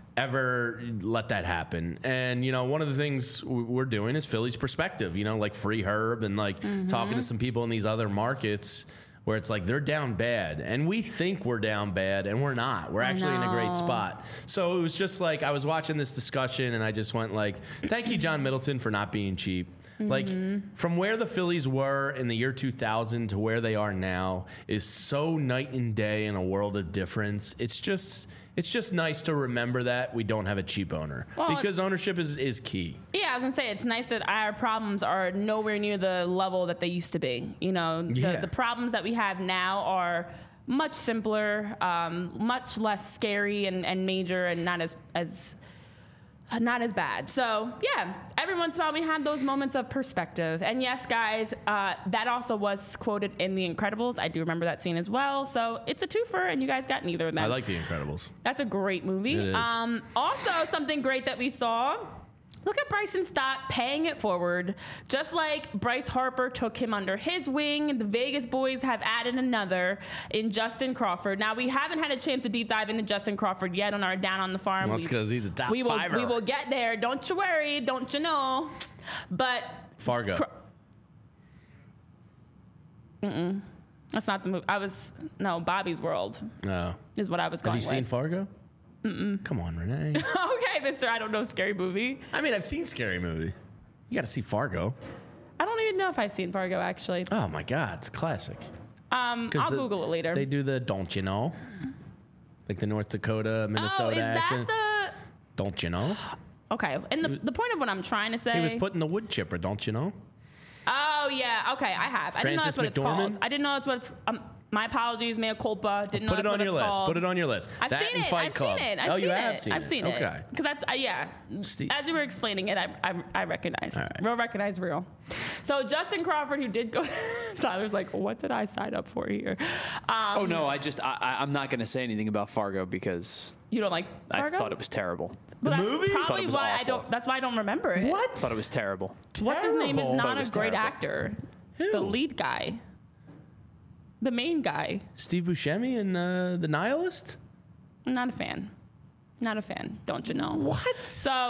ever let that happen. And, you know, one of the things we're doing is Philly's perspective, you know, like Free Herb and like mm-hmm. talking to some people in these other markets where it's like they're down bad. And we think we're down bad, and we're not. We're actually in a great spot. So it was just like I was watching this discussion, and I just went like, thank you, John Middleton, for not being cheap. Like, mm-hmm. from where the Phillies were in the year two thousand to where they are now is so night and day in a world of difference. It's just it's just nice to remember that we don't have a cheap owner well, because ownership is, is key. Yeah, I was going to say, it's nice that our problems are nowhere near the level that they used to be. You know, the, Yeah. the problems that we have now are much simpler, um, much less scary and, and major and not as as... not as bad. So, yeah, every once in a while we have those moments of perspective. And yes, guys, uh, that also was quoted in The Incredibles. I do remember that scene as well. So it's a twofer, and you guys got neither of them. I like The Incredibles. That's a great movie. It is. Um, also, something great that we saw. Look at Bryson Stott paying it forward. Just like Bryce Harper took him under his wing, the Vegas boys have added another in Justin Crawford. Now, we haven't had a chance to deep dive into Justin Crawford yet on our Down on the Farm. Well, that's because he's a top we will, fiver. We will get there. Don't you worry. Don't you know. But Fargo. Cra- Mm-mm. That's not the movie. I was, no, Bobby's World No. is what I was Have going you seen with. Fargo? Mm-mm. Come on, Renee. Okay, mister, I don't know scary movie. I mean, I've seen Scary Movie. You got to see Fargo. I don't even know if I've seen Fargo, actually. Oh, my God. It's a classic. Um, 'Cause I'll the- Google it later. They do the don't you know? Like the North Dakota, Minnesota oh, is accent. that Don't you know? the... Okay, and the, the point of what I'm trying to say... He was put in the wood chipper, don't you know? Oh, yeah, okay, I have. I didn't know Francis that's what it's McDormand? called. I didn't know that's what it's... Um, my apologies, mea culpa. Didn't know Put it that's on what your it's list. called. Put it on your list. I've that seen and it. Fight I've Club. seen it. I've oh, seen you it. have seen I've it. seen okay. it. Because that's, uh, yeah. Steez. As you were explaining it, I, I, I recognize. All right. Real recognize real. So Justin Crawford, who did go... Tyler's like, what did I sign up for here? Um, Oh no, I just I, I- I'm not going to say anything about Fargo because You don't like Fargo? I thought it was terrible. But The that's movie? Probably Thought it was why I awful. don't... That's why I don't remember it. What? Thought it was terrible. What's his name is Terrible. not Thought it a was great terrible. actor. Who? The lead guy. The main guy. Steve Buscemi and uh, The Nihilist? I'm not a fan. Not a fan. Don't you know? What? So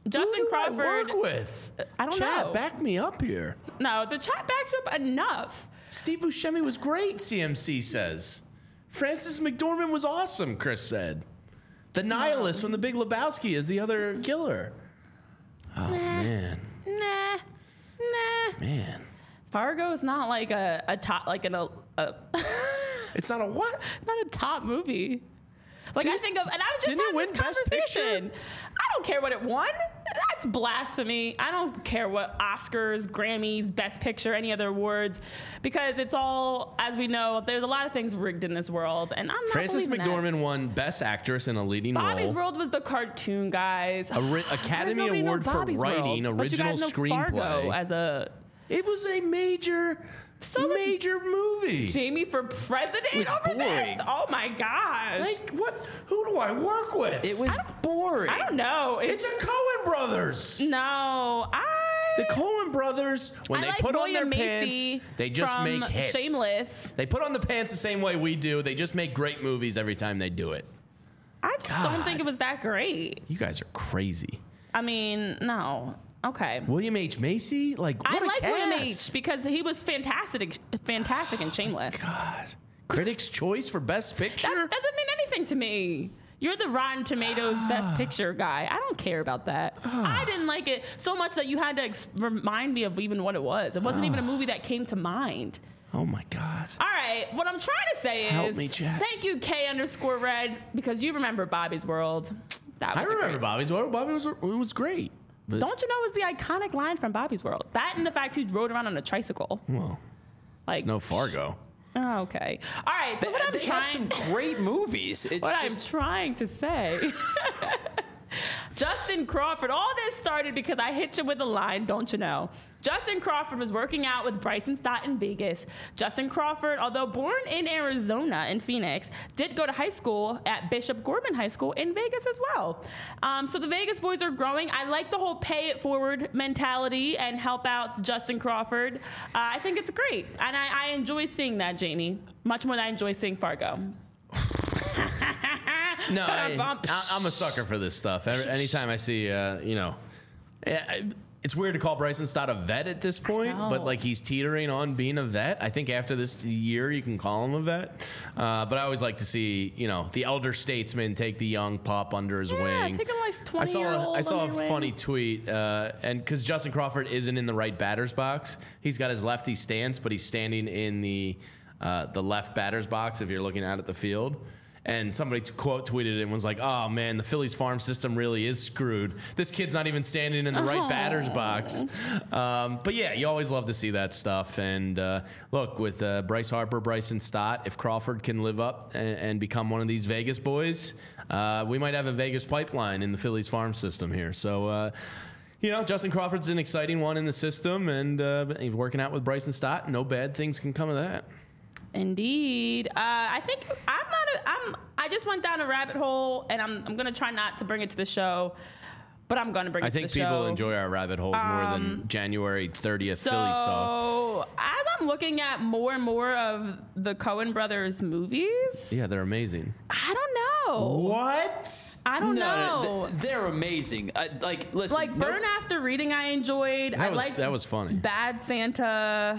Justin Who do Crawford. I work with? I don't Chat, know. back me up here. No, the chat backs you up enough. Steve Buscemi was great, C M C says. Frances McDormand was awesome, Chris said. The nihilist from The Big Lebowski is the other killer. Oh, Nah. man. Nah, nah. Man. Fargo is not like a, a top, like an, a, a It's not a what? not a top movie. Like I think of, and I was just didn't it having win this Best Picture? conversation. I don't care what it won. That's blasphemy. I don't care what Oscars, Grammys, Best Picture, any other awards, because it's all, as we know, there's a lot of things rigged in this world, and I'm not Frances believing that. McDormand won Best Actress in a leading Bobby's role. World was the cartoon, guys. A ri- Academy There's nobody know Award for Bobby's writing, World, but you original guys know screenplay. Fargo as a It was a major, So did major movie. Jamie for president was over boring. this. Oh my gosh! Like, what? Who do I work with? It was boring. I don't know. It's, It's a Coen Brothers. no. I The Coen Brothers, when I they like put William on their Macy pants, they just from make hits. Shameless. They put on the pants the same way we do. They just make great movies every time they do it. I just God. don't think it was that great. You guys are crazy. I mean, no. Okay. William H. Macy? Like, what I a like cast. William H. because he was fantastic, fantastic in Shameless. God. Critics' Choice for Best Picture? That doesn't mean anything to me. You're the Rotten Tomatoes Best Picture guy. I don't care about that. I didn't like it so much that you had to ex- remind me of even what it was. It wasn't even a movie that came to mind. Oh, my God. All right, what I'm trying to say is, Help me, Chad. thank you, K underscore Red, because you remember Bobby's World. That was I a remember great- Bobby's World. Bobby was, it was great. But, Don't you know it was the iconic line from Bobby's World? That and the fact he rode around on a tricycle. well, Like, it's no Fargo. oh, okay. All right, so They, what I'm they have trying some great movies. It's what just I'm trying to say. Justin Crawford, all this started because I hit you with a line, don't you know? Justin Crawford was working out with Bryson Stott in Vegas. Justin Crawford, although born in Arizona, in Phoenix, did go to high school at Bishop Gorman High School in Vegas as well. Um, so the Vegas boys are growing. I like the whole pay it forward mentality and help out Justin Crawford. Uh, I think it's great. And I, I enjoy seeing that, Jamie, much more than I enjoy seeing Fargo. No, I, Bump. I, I'm a sucker for this stuff. Every, anytime I see, uh, you know, I- it's weird to call Bryson Stott a vet at this point, know. but like he's teetering on being a vet. I think after this year, you can call him a vet. Uh, but I always like to see, you know, the elder statesman take the young pup under his Yeah, wing. take a nice I saw, twenty-year-old I saw a under your wing. funny tweet, uh, and because Justin Crawford isn't in the right batter's box, he's got his lefty stance, but he's standing in the uh, the left batter's box if you're looking out at the field. And somebody t- quote tweeted it and was like, "Oh man, the Phillies farm system really is screwed. This kid's not even standing in the right Oh. batter's box." Um, but yeah, you always love to see that stuff. And uh, look, with uh, Bryce Harper, Bryson Stott, if Crawford can live up and, and become one of these Vegas boys, uh, we might have a Vegas pipeline in the Phillies farm system here. So. Uh, You know, Justin Crawford's an exciting one in the system, and uh, he's working out with Bryson Stott. No bad things can come of that. Indeed. Uh, I think I'm not. A, I'm. I just went down a rabbit hole, and I'm. I'm gonna try not to bring it to the show, but I'm gonna bring I it think to the people show. enjoy our rabbit holes more than January thirtieth Philly stuff. So as I'm looking at more and more of the Coen Brothers movies, Yeah, they're amazing. I don't know. What? I don't no, know. th- they're amazing. Uh, like, listen, like no- Burn After Reading, I enjoyed. That I was- liked that was funny. Bad Santa.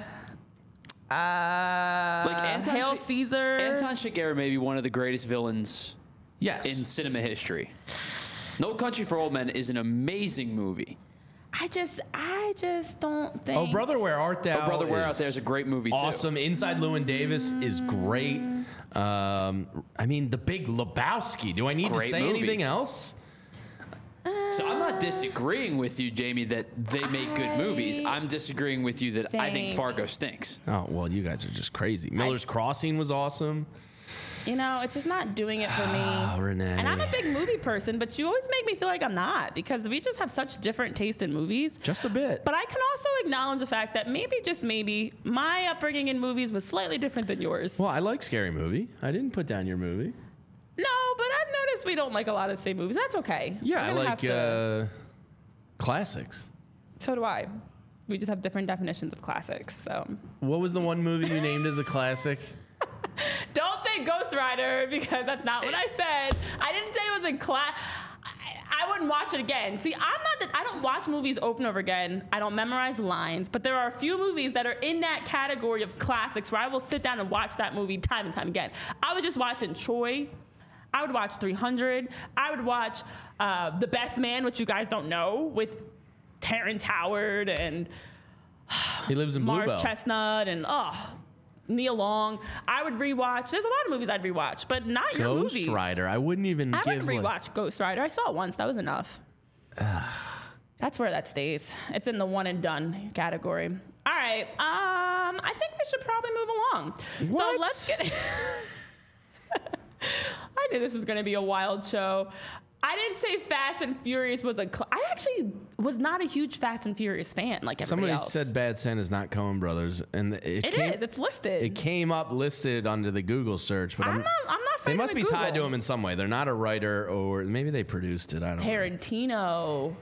Uh, Like Anton Hail Sh- Caesar. Anton Chigurh may be one of the greatest villains Yes. in cinema history. No Country for Old Men is an amazing movie. I just, I just don't think. Oh, Brother, Where Art Thou? Oh, Brother, Where is Out There is a great movie too. awesome. Inside Llewyn Davis is great. Um, I mean, The Big Lebowski. Do I need Great to say movie. anything else? So I'm not disagreeing with you, Jamie, that they make good movies. I I'm disagreeing with you that I think think- Fargo stinks. Oh, well, you guys are just crazy. Miller's Crossing was awesome. You know, it's just not doing it for me. Oh, Renee. And I'm a big movie person, but you always make me feel like I'm not because we just have such different tastes in movies. Just a bit. But I can also acknowledge the fact that maybe, just maybe, my upbringing in movies was slightly different than yours. Well, I like Scary Movie. I didn't put down your movie. No, but I've noticed we don't like a lot of the same movies. That's okay. Yeah, We're I gonna like have to- uh, classics. So do I. We just have different definitions of classics. So What was the one movie you named as a classic? don't say Ghost Rider because that's not what I said. I didn't say it was a class. I, I wouldn't watch it again. See, I'm not that I don't watch movies over and over again. I don't memorize lines, but there are a few movies that are in that category of classics where I will sit down and watch that movie time and time again. I was just watching Troy. I would watch three hundred. I would watch uh, The Best Man, which you guys don't know, with Terrence Howard and He lives in Mars Bluebell. Chestnut and oh, Neil Long. I would rewatch. There's a lot of movies I'd rewatch, but not your movies. Ghost Rider. I wouldn't even I give. wouldn't like- rewatch Ghost Rider. I saw it once. That was enough. That's where that stays. It's in the one and done category. All right. Um, I think we should probably move along. What? So let's get. I knew this was going to be a wild show. I didn't say Fast and Furious was a. Cl- I actually was not a huge Fast and Furious fan like everybody Somebody else. said Bad Santa's not Coen Brothers, and it, It came, is. It's listed. It came up listed under the Google search, but I'm I'm, not. I'm not. they fighting must be with tied to Google. him in some way. They're not a writer, or maybe they produced it. I don't know. Tarantino.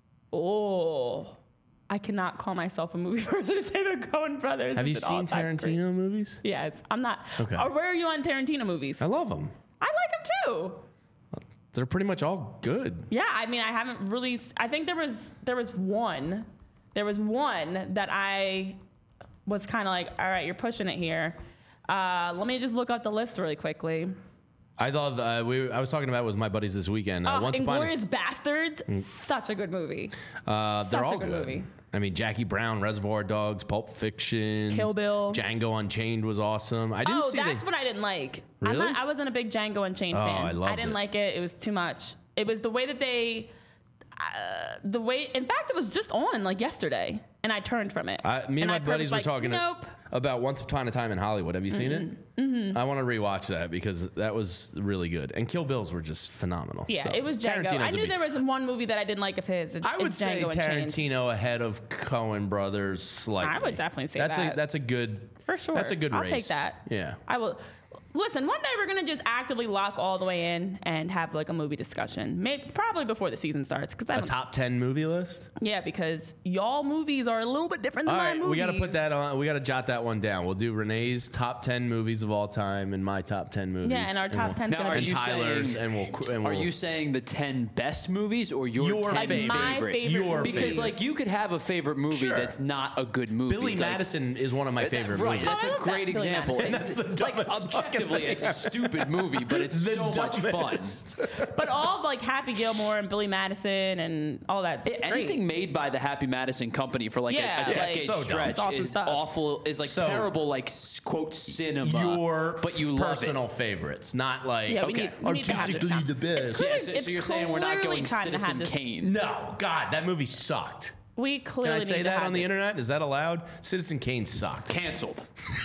Oh, I cannot call myself a movie person to say the Coen Brothers. Have you It's an seen all-time great. Tarantino movies? Yes, I'm not. Okay. Or where are you on Tarantino movies? I love them. I like them too. They're pretty much all good. Yeah, I mean, I haven't really. I think there was there was one, there was one that I was kind of like, all right, you're pushing it here. Uh, let me just look up the list really quickly. I thought uh, we. I was talking about it with my buddies this weekend. Uh, Oh, Once Upon a- Inglourious Bastards, such a good movie. Uh, they're Such a all good movie. I mean, Jackie Brown, Reservoir Dogs, Pulp Fiction, Kill Bill. Django Unchained was awesome. I didn't Oh, see that's the, what I didn't like. I'm Really? not, I wasn't a big Django Unchained Oh, fan. I loved didn't it. like it. It was too much. It was the way that they, uh, the way. In fact, it was just on like yesterday, and I turned from it. I, me and, and my I buddies were like, talking Nope. about Once Upon a Time in Hollywood. Have you seen it? Mm-hmm. I want to rewatch that because that was really good. And Kill Bills were just phenomenal. Yeah, So, it was Django. Tarantino's I a knew big- there was one movie that I didn't like of his. It's, I would it's say Django Unchained. Tarantino ahead of Coen Brothers slightly. I would definitely say that's that. A, that's a good. For sure. That's a good I'll race. take that. Yeah. I will. Listen, one day we're gonna just actively lock all the way in and have like a movie discussion. Maybe probably before the season starts, because I A don't. top ten movie list. Yeah, because y'all movies are a little bit different All than right, my movies. we got to put that on. We got to jot that one down. We'll do Renee's top ten movies of all time and my top ten movies. Yeah, and our top we'll- ten. Now, are and you Tyler's, saying- and we'll. And Are we'll you saying the ten best movies or your, Your ten like favorite. my favorite? favorite? Your movies. Because like you could have a favorite movie Sure. that's not a good movie. Billy It's like- Madison is one of my favorite right, movies. that's Oh, I a love that, great Billy example. Madison. It's That's the like dumbest fucking objectively, thing. it's a stupid movie, but it's The so much fun. dumbest. But all of like Happy Gilmore and Billy Madison and all that. It's Anything great. made by the Happy Madison Company for like Yeah, a, a like- decade so dumb. stretch It's awesome is stuff. awful. Is like So- terrible, like s- quote cinema. Your but you love personal it. favorites, not like Yeah, we okay. need, we need to have this. artistically con- the best. It's Yeah, clearly- so, it's so you're saying we're not clearly going trying to have Citizen this- Kane? No, God, that movie sucked. We Can clearly I say need to that have on the this. internet? Is that allowed? Citizen Kane sucked. Canceled.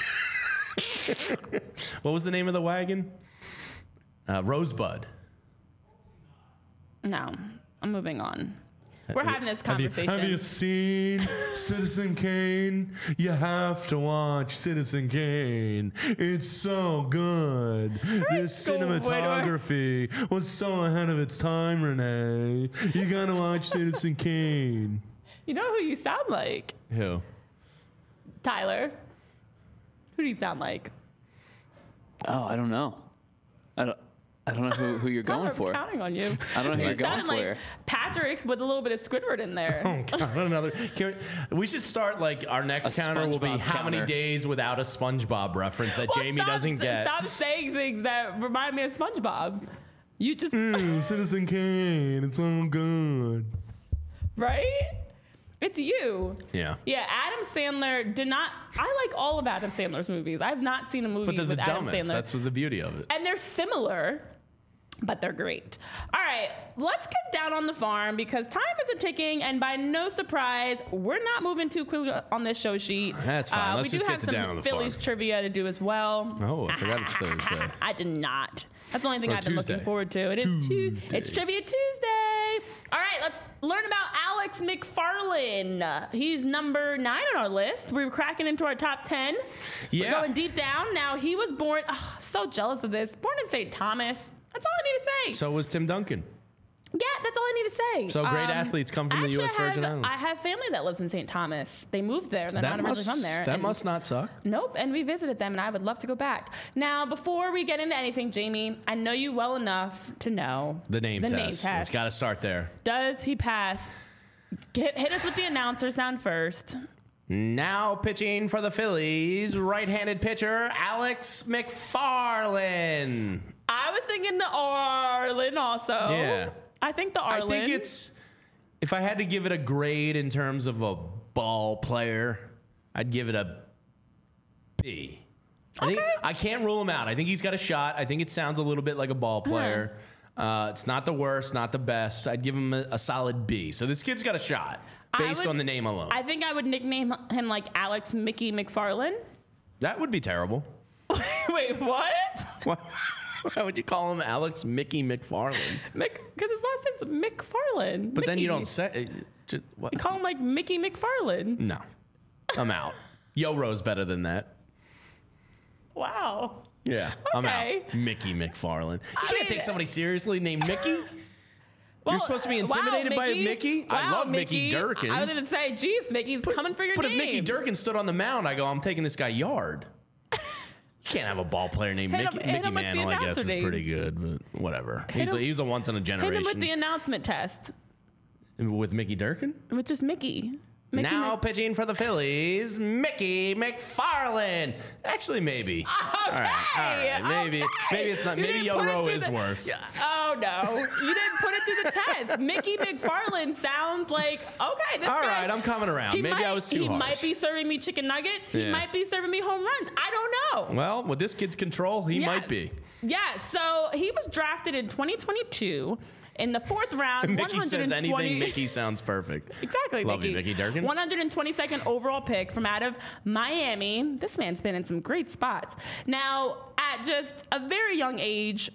What was the name of the wagon? Uh, Rosebud. No, I'm moving on. We're having this Have you- conversation. Have you, seen Citizen Kane? You have to watch Citizen Kane. It's so good. This go, where do I- cinematography was so ahead of its time, Renee. You gotta watch Citizen Kane. You know who you sound like? Who? Tyler. Who do you sound like? Oh, I don't know. I don't. I don't know who, who you're I going was for. counting on you. I don't know who You you're going sounded like for. Patrick with a little bit of Squidward in there. Oh, God, another. Can we, we should start like our next A counter will be SpongeBob how many counter. days without a SpongeBob reference that Well, Jamie stop- doesn't get. Stop saying things that remind me of SpongeBob. You just Mm, Citizen Kane, it's so good. right? It's you. Yeah. Yeah, Adam Sandler did not. I like all of Adam Sandler's movies. I've not seen a movie But they're the with Adam dumbest. Sandler. That's what the beauty of it. And they're similar, but they're great. All right, let's get down on the farm because time is a ticking, and by no surprise, we're not moving too quickly on this show sheet. That's fine. Uh, Let's we just do get have to some down on the Phillies farm. trivia to do as well. Oh, I forgot it's Thursday. I did not. That's the only thing Or I've been looking Tuesday. forward to. It is tu- Tuesday. It's Trivia Tuesday. All right, let's learn about Alex McFarlane. He's number nine on our list. We're cracking into our top ten. We're Yeah. going deep down. Now, he was born, oh, so jealous of this, born in Saint Thomas. That's all I need to say. So was Tim Duncan. Yeah, that's all I need to say. So great athletes come from the actually, U S I Virgin have, Islands. I have family that lives in Saint Thomas. They moved there. They're That not must, originally from there. that and- must not suck. Nope, and we visited them, and I would love to go back. Now, before we get into anything, Jamie, I know you well enough to know The name the test. name It's test. got to start there. Does he pass? Get, hit us with the announcer sound first. Now pitching for the Phillies, right-handed pitcher Alex McFarland. I was thinking the Arlen also. Yeah. I think the Arlen. I think it's, if I had to give it a grade in terms of a ball player, I'd give it a B. I, think, Okay. I can't rule him out. I think he's got a shot. I think it sounds a little bit like a ball player. Uh, it's not the worst, not the best. I'd give him a, a solid B. So this kid's got a shot based would- on the name alone. I think I would nickname him like Alex Mickey McFarland. That would be terrible. Wait, what? Why, why would you call him Alex Mickey McFarland? Mick, because his last name's McFarland. But then you Mickey. don't say. uh, Just, what? You call him like Mickey McFarland. No, I'm out. Yo Ro's better than that. Wow. Yeah, I'm Okay. out. Mickey McFarland. You I can't mean- take somebody seriously named Mickey. Well, You're supposed to be wow, intimidated by a Mickey. Mickey? I Wow, love Mickey Durkin. I was going to say, geez, Mickey's coming for your But name. if Mickey Durkin stood on the mound, I go, I'm taking this guy yard. You can't have a ball player named Hit him- Mickey. hit Mickey him with the Mantle, I guess, announcer is name. pretty good, but whatever. He's him- a, he's a once in a Hit generation. him with the announcement test, With Mickey Durkin? with just Mickey. Mickey Now Mc- pitching for the Phillies, Mickey McFarland. Actually, maybe. Okay. All right, all right. Maybe, okay. maybe it's not. You Maybe didn't Yo put it Ro through is the- worse. Oh no, you didn't put it through the test. Mickey McFarland sounds like okay. This All guy, right, I'm coming around. he Maybe might, I was too He harsh. might be serving me chicken nuggets. He Yeah. might be serving me home runs. I don't know. Well, with this kid's control, he Yeah. might be. Yeah. So he was drafted in twenty twenty-two. In the fourth round, Mickey says 120 anything. Mickey sounds perfect. Exactly, Love Mickey. you, Mickey Durkin. one hundred twenty-second overall pick from out of Miami. This man's been in some great spots. Now, at just a very young age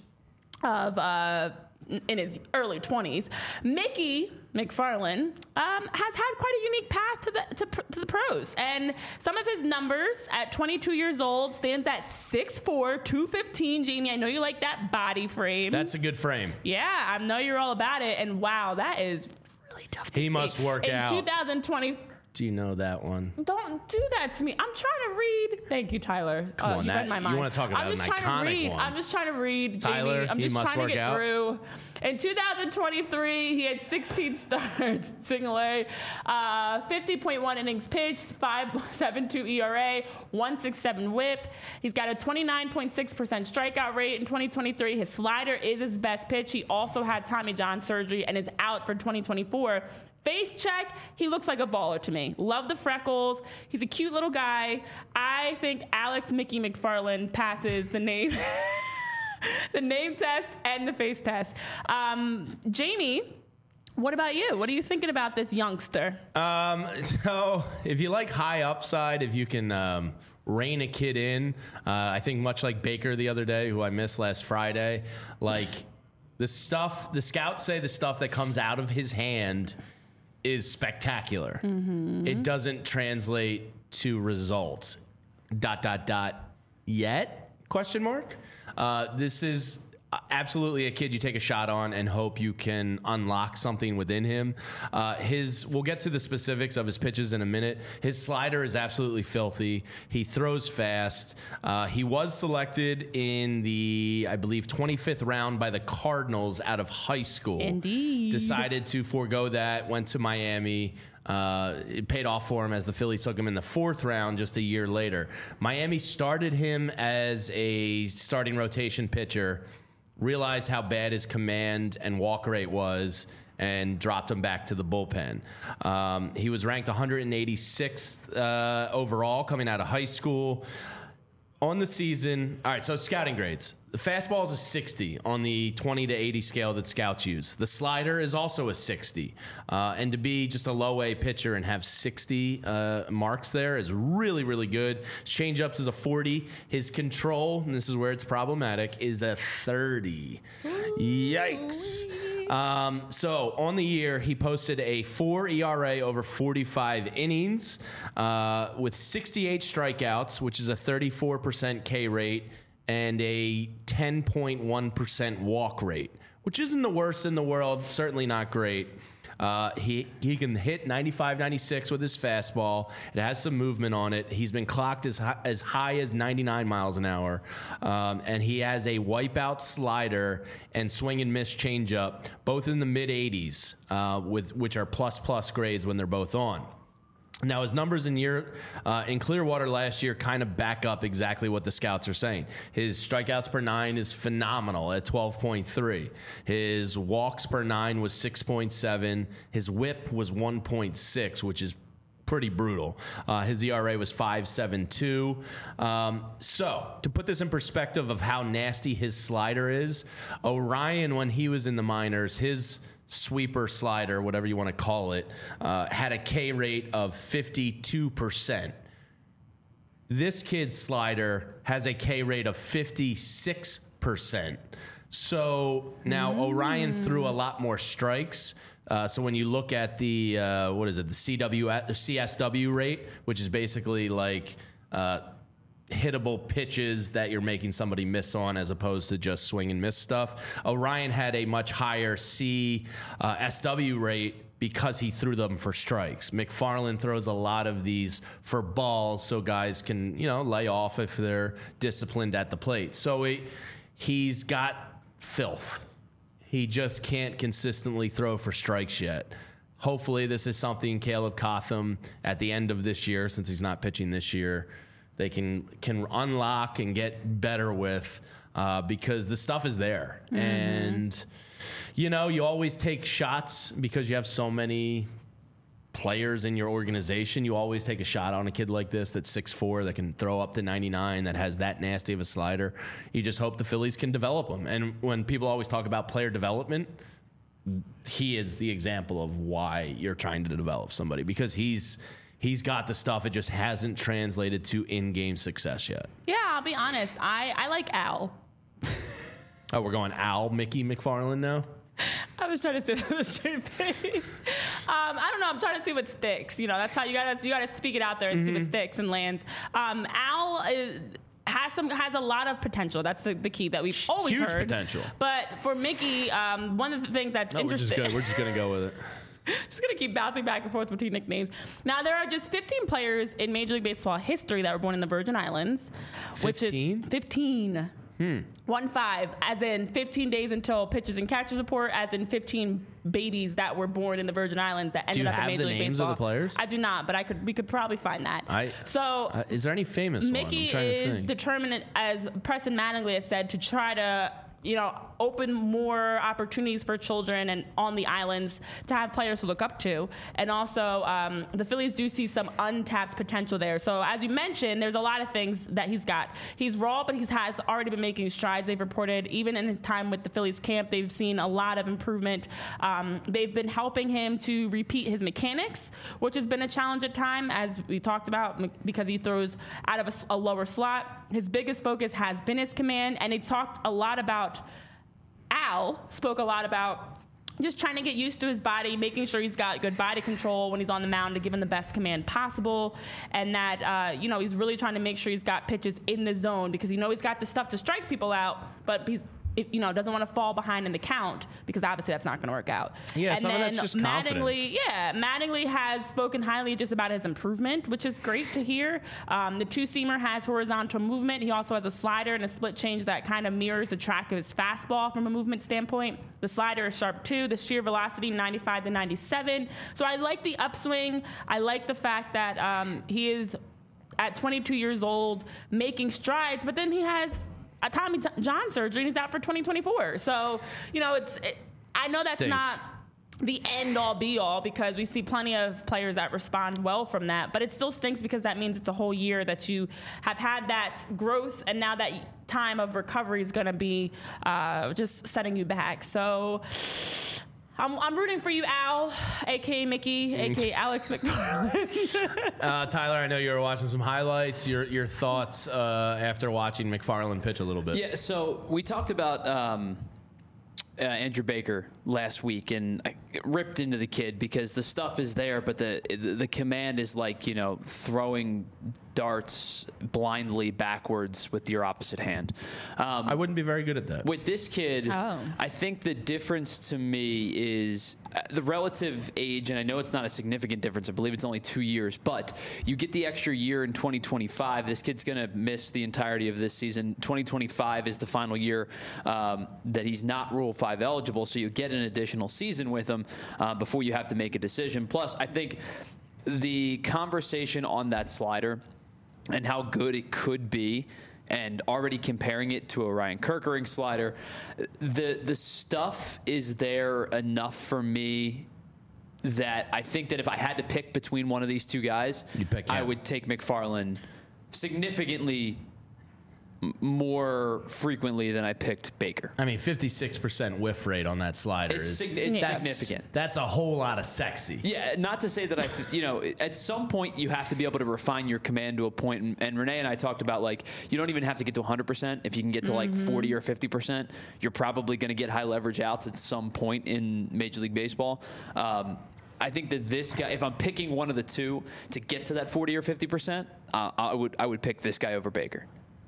of uh, in his early twenties, Mickey McFarland um, has had quite a unique path to the to, pr- to the pros, and some of his numbers at twenty-two years old stands at six four, two fifteen. Jamie, I know you like that body frame. That's a good frame. Yeah, I know you're all about it, and wow, that is really tough to He see. must work in out. In twenty twenty, Do you know that one? don't do that to me. I'm trying to read. Thank you, Tyler. Come Oh, on, you that- read my you mind. wanna talk about I'm just an trying iconic to read. one. I'm just trying to read, Tyler, Jamie. I'm he just must trying to work get out. through. In two thousand twenty-three, he had sixteen starts, single A, uh, fifty point one innings pitched, five point seven two E R A, one point six seven whip. He's got a twenty-nine point six percent strikeout rate in twenty twenty-three. His slider is his best pitch. He also had Tommy John surgery and is out for twenty twenty-four. Face check, he looks like a baller to me. Love the freckles. He's a cute little guy. I think Alex Mickey McFarland passes the name the name test and the face test. Um, Jamie, what about you? What are you thinking about this youngster? Um, so if you like high upside, if you can um, rein a kid in, uh, I think much like Baker the other day, who I missed last Friday, like the stuff, the scouts say the stuff that comes out of his hand is spectacular. Mm-hmm. It doesn't translate to results. Dot, dot, dot, yet? Question mark. Uh, this is absolutely a kid you take a shot on and hope you can unlock something within him. Uh, his, we'll get to the specifics of his pitches in a minute. His slider is absolutely filthy. He throws fast. Uh, he was selected in the, I believe, twenty-fifth round by the Cardinals out of high school. Indeed. Decided to forego that, went to Miami. Uh, it paid off for him as the Phillies took him in the fourth round just a year later. Miami started him as a starting rotation pitcher, realized how bad his command and walk rate was, and dropped him back to the bullpen. Um, he was ranked one hundred eighty-sixth uh, overall coming out of high school. On the season, all right, so scouting grades. The fastball is a sixty on the twenty to eighty scale that scouts use. The slider is also a sixty. Uh, and to be just a low A pitcher and have sixty uh, marks there is really, really good. His changeups is a forty. His control, and this is where it's problematic, is a thirty. Yikes. Um, so on the year, he posted a four E R A over forty-five innings uh, with sixty-eight strikeouts, which is a thirty-four percent K rate, and a ten point one percent walk rate, which isn't the worst in the world, certainly not great. Uh, he he can hit ninety-five, ninety-six with his fastball. It has some movement on it. He's been clocked as high as, high as ninety-nine miles an hour. Um, and he has a wipeout slider and swing and miss changeup, both in the mid eighties, uh, with which are plus plus grades when they're both on. Now, his numbers in year uh, in Clearwater last year kind of back up exactly what the scouts are saying. His strikeouts per nine is phenomenal at twelve point three. His walks per nine was six point seven. His whip was one point six, which is pretty brutal. Uh, his E R A was five point seven two. Um, so, to put this in perspective of how nasty his slider is, Orion, when he was in the minors, his sweeper slider, whatever you want to call it, uh, had a K rate of fifty-two percent. This kid's slider has a K rate of fifty-six percent. So now mm. Orion threw a lot more strikes. Uh, so when you look at the, uh, what is it, the C W, the C S W rate, which is basically like uh, hittable pitches that you're making somebody miss on as opposed to just swing and miss stuff. Orion had a much higher C uh, S W rate because he threw them for strikes. McFarland throws a lot of these for balls so guys can, you know, lay off if they're disciplined at the plate. So he, he's got filth. He just can't consistently throw for strikes yet. Hopefully this is something Caleb Cotham at the end of this year, since he's not pitching this year, they can can unlock and get better with, uh, because the stuff is there. Mm-hmm. And, you know, you always take shots because you have so many players in your organization. You always take a shot on a kid like this that's six foot four, that can throw up to ninety-nine, that has that nasty of a slider. You just hope the Phillies can develop him. And when people always talk about player development, he is the example of why you're trying to develop somebody, because he's He's got the stuff. It just hasn't translated to in-game success yet. Yeah, I'll be honest. I, I like Al. Oh, we're going Al Mickey McFarland now? I was trying to say that with a straight face. Um, I don't know. I'm trying to see what sticks. You know, that's how you got to you got to speak it out there and mm-hmm. see what sticks and lands. Um, Al is, has some has a lot of potential. That's the, the key that we've always Huge heard. Huge potential. But for Mickey, um, one of the things that's no, interesting. We're just, we're just going to go with it. Just going to keep bouncing back and forth between nicknames. Now, there are just fifteen players in Major League Baseball history that were born in the Virgin Islands. fifteen? Which is fifteen. Hmm. One five, as in fifteen days until pitchers and catchers report, as in fifteen babies that were born in the Virgin Islands that ended up in Major League Baseball. Do you have the names of the players? I do not, but I could. We could probably find that. I, so, uh, is there any famous Mickey one? I'm is to think. determined, as Preston Mattingly has said, to try to, you know, open more opportunities for children and on the islands to have players to look up to. And also, um, the Phillies do see some untapped potential there. So as you mentioned, there's a lot of things that he's got. He's raw, but he has already been making strides. They've reported, even in his time with the Phillies camp, they've seen a lot of improvement. Um, they've been helping him to repeat his mechanics, which has been a challenge at time, as we talked about, because he throws out of a, a lower slot. His biggest focus has been his command, and he talked a lot about Al spoke a lot about just trying to get used to his body, making sure he's got good body control when he's on the mound to give him the best command possible, and that, uh, you know, he's really trying to make sure he's got pitches in the zone, because you know he's got the stuff to strike people out, but he's, you know, doesn't want to fall behind in the count, because obviously that's not going to work out. Yeah, and some then of that's just Mattingly, confidence. Yeah, Mattingly has spoken highly just about his improvement, which is great to hear. Um, the two-seamer has horizontal movement. He also has a slider and a split change that kind of mirrors the track of his fastball from a movement standpoint. The slider is sharp too. The sheer velocity, ninety-five to ninety-seven. So I like the upswing. I like the fact that um, he is at twenty-two years old making strides, but then he has a Tommy John surgery, and he's out for twenty twenty-four. So, you know, it's. It, I know that's Stinks. not the end all be all, because we see plenty of players that respond well from that, but it still stinks because that means it's a whole year that you have had that growth, and now that time of recovery is going to be uh, just setting you back. So I'm, I'm rooting for you, Al, a k a. Mickey, a k a. Alex McFarland. uh, Tyler, I know you were watching some highlights. Your your thoughts uh, after watching McFarland pitch a little bit. Yeah, so we talked about um, uh, Andrew Baker last week, and I ripped into the kid because the stuff is there, but the the command is like, you know, throwing darts blindly backwards with your opposite hand. Um, I wouldn't be very good at that. With this kid, Oh. I think the difference to me is uh, the relative age, and I know it's not a significant difference. I believe it's only two years, but you get the extra year in twenty twenty-five. This kid's going to miss the entirety of this season. twenty twenty-five is the final year um, that he's not Rule five eligible, so you get an additional season with him uh, before you have to make a decision. Plus, I think the conversation on that slider and how good it could be, and already comparing it to a Ryan Kerkering slider, the the stuff is there enough for me that I think that if I had to pick between one of these two guys, You'd pick I him. would take McFarland significantly m- more frequently than I picked Baker. I mean, fifty-six percent whiff rate on that slider It's, is sig- it's Yeah. significant. That's a whole lot of sexy. Yeah, not to say that I, th- you know, at some point you have to be able to refine your command to a point, and, and Renee and I talked about like you don't even have to get to one hundred percent. If you can get to like forty or fifty percent, you're probably going to get high leverage outs at some point in Major League Baseball. Um, I think that this guy, if I'm picking one of the two to get to that forty or fifty percent, uh, I would I would pick this guy over Baker.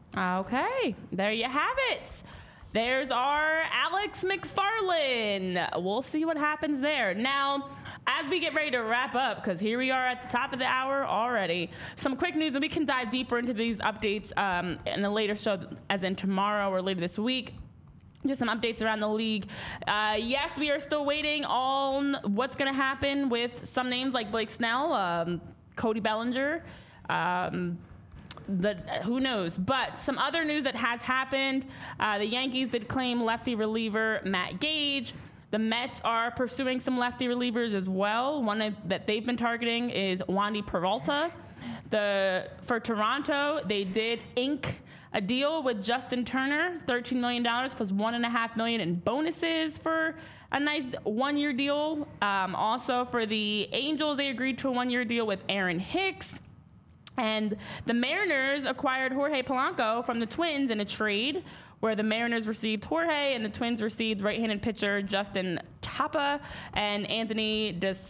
Okay, there you have it. There's our Alex McFarland. We'll see what happens there. Now, as we get ready to wrap up, because here we are at the top of the hour already, some quick news, and we can dive deeper into these updates um, in a later show, as in tomorrow or later this week. Just some updates around the league. Uh, yes, we are still waiting on what's going to happen with some names like Blake Snell, um, Cody Bellinger. Um, the, who knows? But some other news that has happened. Uh, the Yankees did claim lefty reliever Matt Gage. The Mets are pursuing some lefty relievers as well. One of, that they've been targeting is Wandy Peralta. The for Toronto, they did ink a deal with Justin Turner, thirteen million dollars plus one and a half million in bonuses for a nice one-year deal. Um, also for the Angels, they agreed to a one-year deal with Aaron Hicks. And the Mariners acquired Jorge Polanco from the Twins in a trade where the Mariners received Jorge and the Twins received right-handed pitcher Justin Tapa and Anthony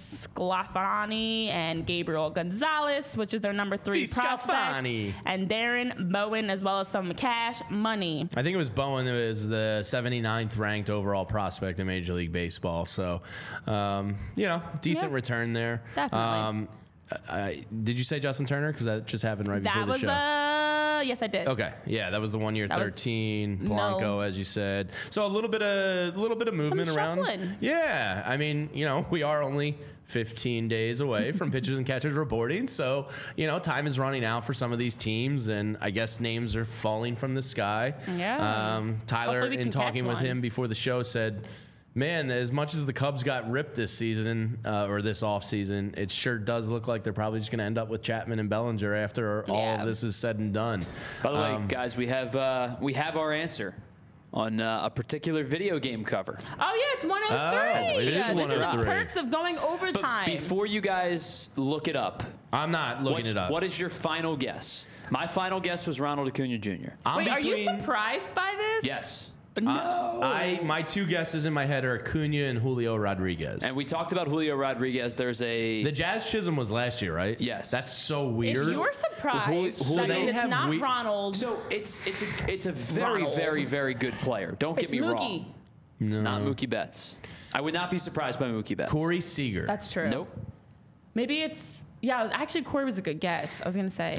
DeSclafani and Gabriel Gonzalez, which is their number three prospect, DeSclafani. and Darren Bowen, as well as some cash money. I think it was Bowen who was the seventy-ninth ranked overall prospect in Major League Baseball. So, um, you know, decent Yeah. return there. Definitely. Um, I, did you say Justin Turner? Because that just happened right before That the was show. uh yes, I did. Okay, yeah, that was the one year That was- thirteen Polanco, no. as you said. So a little bit of a little bit of movement around. shuffling. Yeah, I mean, you know, we are only fifteen days away from pitchers and catchers reporting, so you know, time is running out for some of these teams, and I guess names are falling from the sky. Yeah. Um, Tyler, Hopefully we in can talking catch with one. him before the show, said, man, as much as the Cubs got ripped this season uh, or this offseason, it sure does look like they're probably just going to end up with Chapman and Bellinger after all Yeah. of this is said and done. By the way, Um, guys, we have uh, we have our answer on uh, a particular video game cover. Oh yeah, it's one oh Oh, three. it is This is one oh the three. perks of going But overtime. before you guys look it up, I'm not looking what's- it up. what is your final guess? My final guess was Ronald Acuna Junior I'm Wait, are you between- surprised by this? Yes. No. I my two guesses in my head are Acuna and Julio Rodriguez. And we talked about Julio Rodriguez. There's a the Jazz Chisholm was last year, right? Yes. That's so weird. If you're surprised, Who- who that they means it's have not we- Ronald. so it's it's a it's a very Ronald. very very good player. Don't it's get me Mookie. wrong. It's not Mookie Betts. I would not be surprised by Mookie Betts. Corey Seager. That's true. Nope. Maybe it's yeah. it was- Actually, Corey was a good guess. I was gonna say maybe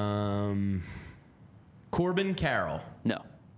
um, Corbin Carroll. No.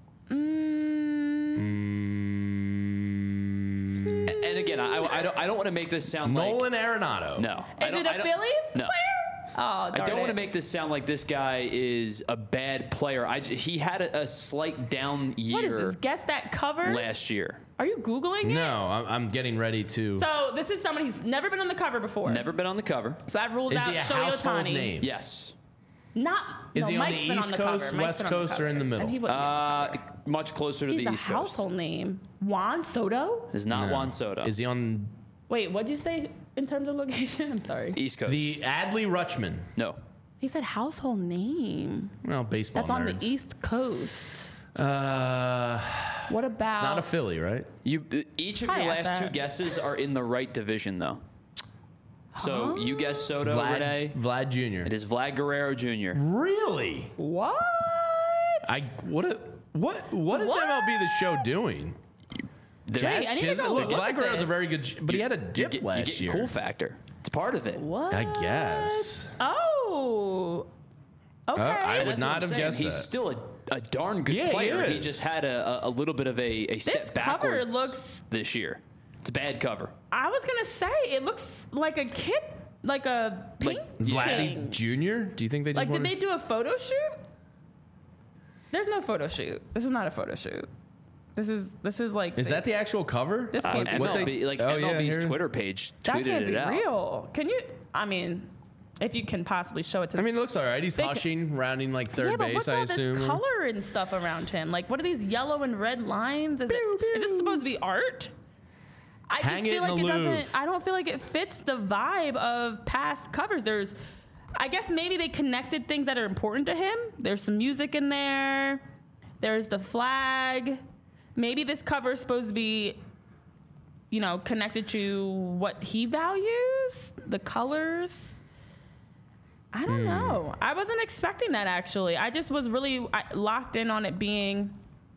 Mm, And again, I, I don't I don't want to make this sound Nolan Arenado. like no. it's. I Is don't- it I a don't- Phillies No. player? Oh, I darn don't want it. to make this sound like this guy is a bad player. I j- he had a, a slight down What is year this? Guess that cover. last year. Are you googling it? No, I'm, I'm getting ready to. So this is someone who's never been on the cover before. Never been on the cover. So that rules is out he a Shohei household Ohtani. name? Yes. Not. Is no, he on Mike's the been East the Coast, cover. Mike's West been on the Coast, or cover. in the middle? And he wouldn't be on the Uh, much closer to He's the a East Coast. household name. Juan Soto? Is not No. Juan Soto. Is he on Wait, what'd you say in terms of location? I'm sorry. East Coast. the Adley Rutschman? no. He said household name. Well, baseball That's on nerds. the East Coast. Uh, What about? it's not a Philly, right? You uh, each of I your asked last two that. guesses are in the right division though. So Huh? you guessed Soto, Vlad, Renee. Vlad Junior It is Vlad Guerrero Junior Really? What? I what a, what what is What? M L B The Show doing? There- Jazz I need to Chisholm? go Look, look Vlad at Guerrero's a this. very good, sh- but he had a you dip get, last you get year. cool factor. It's part of it. What? I guess. Oh. Okay. I would That's not what I'm have saying. guessed He's that. still a, a darn good Yeah, he player. He, is. just had a, a, a little bit of a, a step This cover backwards looks- this year. It's a bad cover. I was gonna say it looks like a kid, like a Like painting. Vladdy Junior? Do you think they just Like, did wanted- they do a photo shoot? There's no photo shoot. This is not a photo shoot. This is this is like. Is they- that the actual cover? This Uh, can't be what real. M L B, like Oh, yeah, M L B's here- Twitter page That tweeted can't it be out. real. Can you? I mean, if you can possibly show it to. I mean, it looks all right. He's They ca- hushing, rounding like third yeah, but base, what's I all assume. this color and stuff around him? Like, what are these yellow and red lines? Is, it, is this supposed to be art? I Hang just it feel in like the it Louvre. doesn't. I don't feel like it fits the vibe of past covers. There's, I guess maybe they connected things that are important to him. There's some music in there. There's the flag. Maybe this cover is supposed to be, you know, connected to what he values, the colors. I don't Hmm. know. I wasn't expecting that, actually. I just was really I, locked in on it being.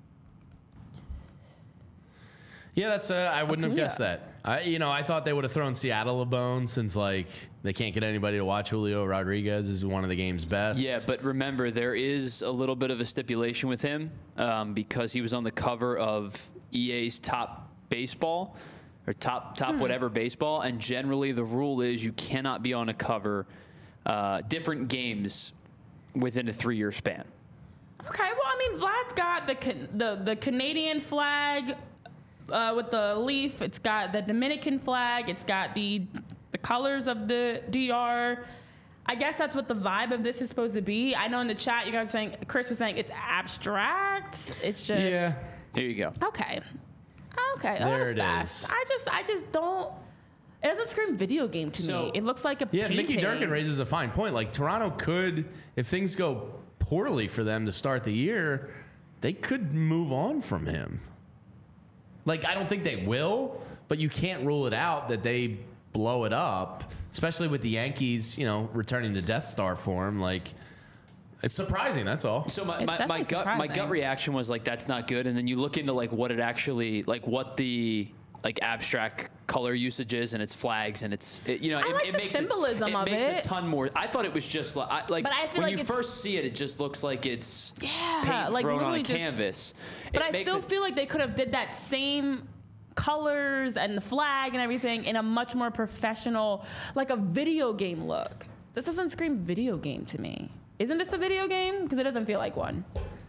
Yeah, that's. Uh, I wouldn't have Acuna. guessed that. I, you know, I thought they would have thrown Seattle a bone since like they can't get anybody to watch Julio Rodriguez is one of the game's best. Yeah, but remember, there is a little bit of a stipulation with him um, because he was on the cover of E A's Top Baseball or Top Top Hmm. whatever baseball, and generally the rule is you cannot be on a cover uh, different games within a three-year span. Okay, well, I mean, Vlad's got the Can- the the Canadian flag uh, with the leaf. It's got the Dominican flag. It's got the the colors of the D R. I guess that's what the vibe of this is supposed to be. I know in the chat you guys were saying, Chris was saying it's abstract. It's just Yeah. There you go. okay, okay. There That was it fast. is. I just I just don't. It doesn't scream video game to So- me. It looks like a Yeah, painting. Mickey Durkin raises a fine point. Like Toronto could, if things go poorly for them to start the year, they could move on from him. Like I don't think they will, but you can't rule it out that they blow it up, especially with the Yankees, you know, returning to Death Star form. Like it's surprising. That's all. So my, It's my, my definitely gut my gut surprising. reaction was like that's not good, and then you look into like what it actually like what the like abstract color usage is, and its flags, and it's it, you know I it, like it the makes symbolism it, it of makes it. a ton more. I thought it was just like I, like But I feel when like you it's- first see it, it just looks like it's Yeah, paint like thrown on a literally just- canvas. But It I makes still it- feel like they could have did that same colors and the flag and everything in a much more professional, like a video game look. This doesn't scream video game to me. Isn't this a video game? Because it doesn't feel like one.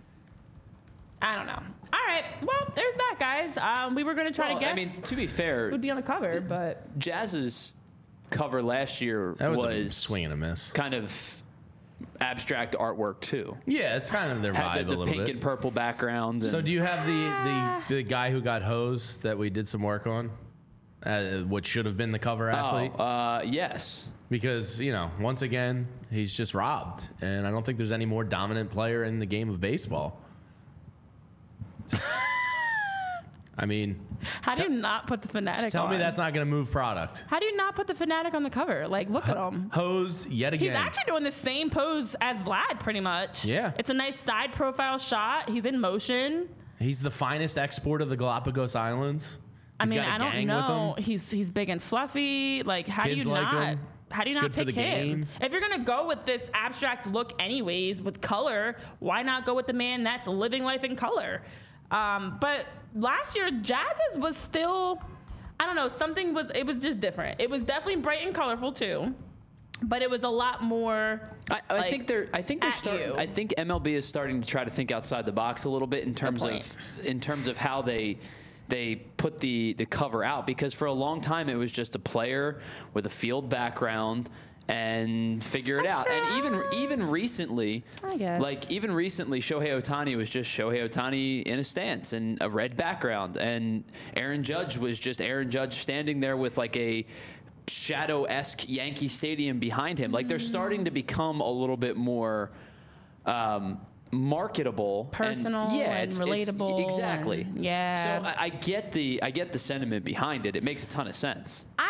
I don't know. All right. Well, there's that, guys. Um, we were going to try well, to guess I mean, to be fair, who would be on the cover, but Jazz's cover last year That was, was, a swing and a miss. kind of abstract artwork too. Yeah, it's kind of their Had vibe the, a the little pink bit. and purple background. So and- do you have the the, the guy who got hosed that we did some work on, uh, what should have been the cover athlete? Oh, uh, yes. Because, you know, once again, he's just robbed. And I don't think there's any more dominant player in the game of baseball. I mean, how do you not put the Fanatic tell on? me that's not going to move product. How do you not put the Fanatic on the cover? Like, look at him. Hosed yet He's again. actually doing the same pose as Vlad, pretty much. Yeah. It's a nice side profile shot. He's in motion. He's the finest export of the Galapagos Islands. I He's mean, got a I don't gang know. with him. He's he's big and fluffy. Like, how Kids do you like not? him. How do you It's not good for pick the him? game. If you're gonna go with this abstract look, anyways, with color, why not go with the man that's living life in color? Um, but last year, Jazz's was still, I don't know, something was. It was just different. It was definitely bright and colorful too, but it was a lot more. I, I like, think they're. I think they're at starting. you. I think M L B is starting to try to think outside the box a little bit in terms point. of in terms of how they they put the the cover out, because for a long time it was just a player with a field background and figure it That's out. And even true. even recently, I guess. like even recently, Shohei Ohtani was just Shohei Ohtani in a stance and a red background, and Aaron Judge was just Aaron Judge standing there with like a shadow-esque Yankee Stadium behind him. Like they're starting to become a little bit more um, marketable, Personal and, yeah, and it's, it's- relatable exactly. and- yeah. So I, I get the I get the sentiment behind it. It makes a ton of sense. I,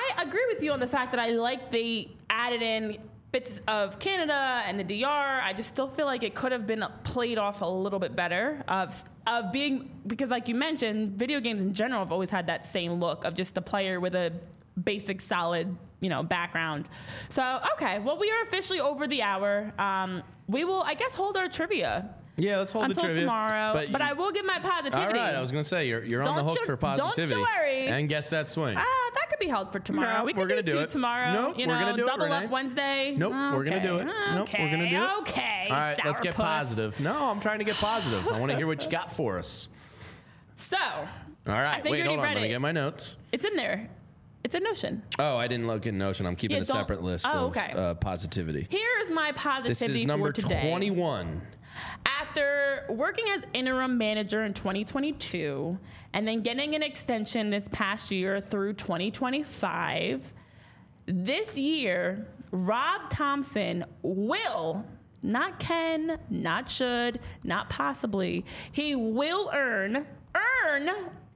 I agree with you on the fact that I like they added in bits of Canada and the D R. I just still feel like it could have been played off a little bit better of of being, because like you mentioned, video games in general have always had that same look of just the player with a basic solid, you know, background. So, okay, well, we are officially over the hour. Um, we will, I guess, hold our trivia. Yeah, let's hold until the trivia. tomorrow. But, but you, I will give my positivity. All right, I was going to say, you're, you're on the Don't hook you- for positivity. don't you worry. And guess that swing. Ah, that could be held for tomorrow. No, we we're can gonna do, do two it. tomorrow. Nope, you we're know, gonna do it, double Renee. up Wednesday. Nope, okay. we're going to do it. Nope, Okay. we're going to do it. Okay. All right, let's get sourpuss. positive. No, I'm trying to get positive. I want to hear what you got for us. So, All right, I think wait, you already hold on. read Let me it. get my notes. it's in there. It's in Notion. Oh, I didn't look in Notion. I'm keeping Yeah, a don't- separate list oh, of okay. uh, positivity. Here's my This positivity is number for today. twenty-one. After working as interim manager in twenty twenty-two and then getting an extension this past year through twenty twenty-five, this year, Rob Thompson will, not can, not should, not possibly, he will earn, earn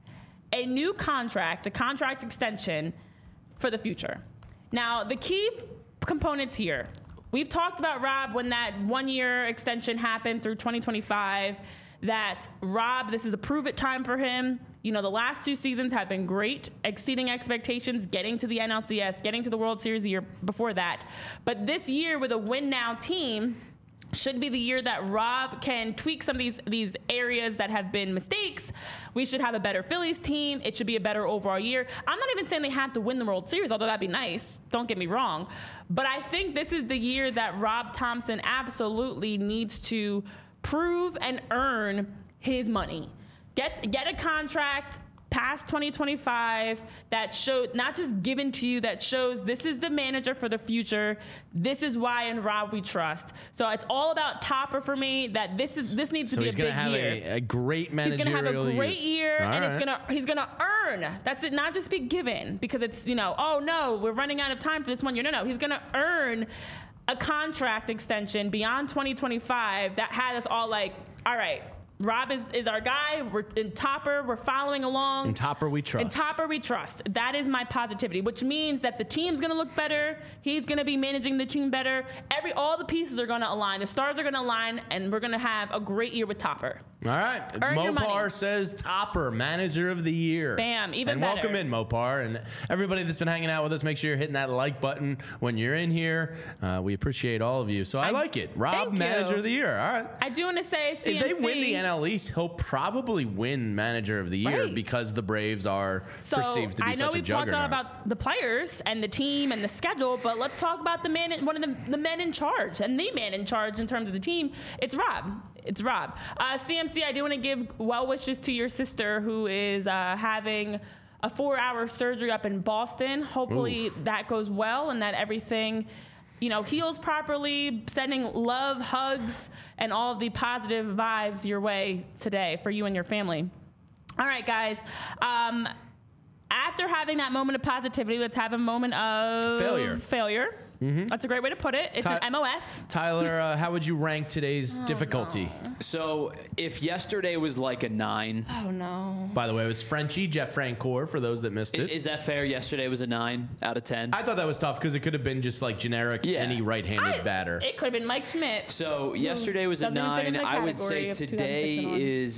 a new contract, a contract extension for the future. Now, the key components here. We've talked about Rob when that one-year extension happened through twenty twenty-five, that Rob, this is a prove-it time for him. You know, the last two seasons have been great, exceeding expectations, getting to the N L C S, getting to the World Series the year before that. But this year with a win-now team should be the year that Rob can tweak some of these these areas that have been mistakes. We should have a better Phillies team. It should be a better overall year. I'm not even saying they have to win the World Series, although that'd be nice. Don't get me wrong. But I think this is the year that Rob Thompson absolutely needs to prove and earn his money. Get get a contract past twenty twenty-five that showed, not just given to you, that shows this is the manager for the future. This is why in Rob we trust. So it's all about Topper for me. That this is this needs So to be he's a going big to have year. a, a great He's managerial gonna have a great year, All and right. it's gonna he's gonna earn. That's it, not just be given because it's, you know, oh no, we're running out of time for this one year. No, no, he's gonna earn a contract extension beyond twenty twenty-five that has us all like, all right, Rob is, is our guy. We're in Topper. We're following along. In Topper we trust. In Topper we trust. That is my positivity, which means that the team's going to look better. He's going to be managing the team better. Every all the pieces are going to align. The stars are going to align, and we're going to have a great year with Topper. All right. Earn your money. Mopar says Topper, manager of the year. Bam, even and better. welcome in, Mopar. And everybody that's been hanging out with us, make sure you're hitting that like button when you're in here. Uh, we appreciate all of you. So I, I- like it. Rob, thank you. manager of the year. All right. I do want to say C M C. If they win the N L East, he'll probably win manager of the year Right. because the Braves are So perceived to be I know such a we've talked a lot juggernaut. about the players and the team and the schedule, but let's talk about the man, in, one of the, the men in charge, and the man in charge in terms of the team. It's Rob. It's Rob. Uh, C M C, I do want to give well wishes to your sister who is uh, having a four-hour surgery up in Boston. Hopefully Oof. that goes well and that everything, you know, heals properly. Sending love, hugs, and all of the positive vibes your way today for you and your family. All right, guys. Um, after having that moment of positivity, let's have a moment of Failure. Failure. Mm-hmm. That's a great way to put it. It's Ty- an M O F. Tyler, uh, how would you rank today's Oh, difficulty? So if yesterday was like a nine, Oh no. By the way, it was Frenchie, Jeff Francoeur, for those that missed i- it. is that fair? Yesterday was a nine out of ten. I thought that was tough because it could have been just like generic Yeah. any right-handed I- batter. It could have been Mike Schmidt. So yesterday was a doesn't even fit in nine. the I would category say of today two thousand six and on. is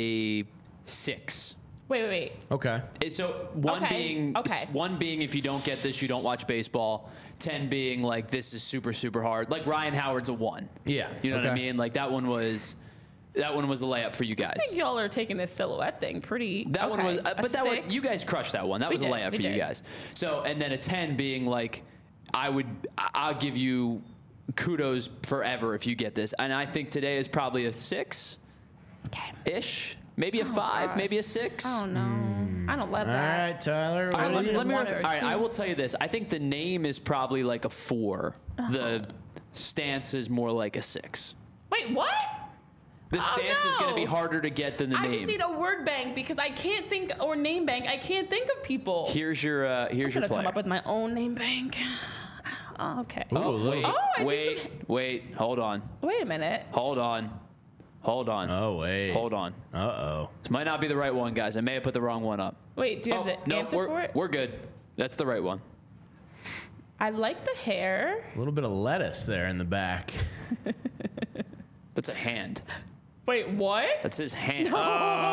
a six. Wait, wait, wait. Okay. Eh, So one Okay, being okay. one being if you don't get this, you don't watch baseball. Ten being like this is super super hard. Like Ryan Howard's a one. Yeah, you know what I okay. mean. Like that one was that one was a layup for you guys. I think y'all are taking this silhouette thing pretty. That one okay. was, uh, A but that one six? you guys crushed that one. That We was a did, layup we for you did. guys. So and then a ten being like, I would I- I'll give you kudos forever if you get this. And I think today is probably a six Okay. ish, maybe a five, gosh. maybe a six. Oh no. I don't love All that. right, Tyler. All right, what let, do you- let me. one Ref- or all right, two. I will tell you this. I think the name is probably like a four. Uh-huh. The stance is more like a six. Wait, what? The Oh, stance is going to be no. harder to get than the I name. just need a word bank because I can't think, or name bank. I can't think of people. here's your. Uh, here's I'm your gonna come player. up with my own name bank. Oh, okay. Ooh, oh, look. wait, Oh, I see wait, some- wait. Hold on. Wait a minute. Hold on. Hold on. Oh, wait. Hold on. Uh-oh. This might not be the right one, guys. I may have put the wrong one up. Wait, do you have Oh, the no, answer we're, for it? we're good. That's the right one. I like the hair. A little bit of lettuce there in the back. That's a hand. Wait, what? That's his hand. Oh.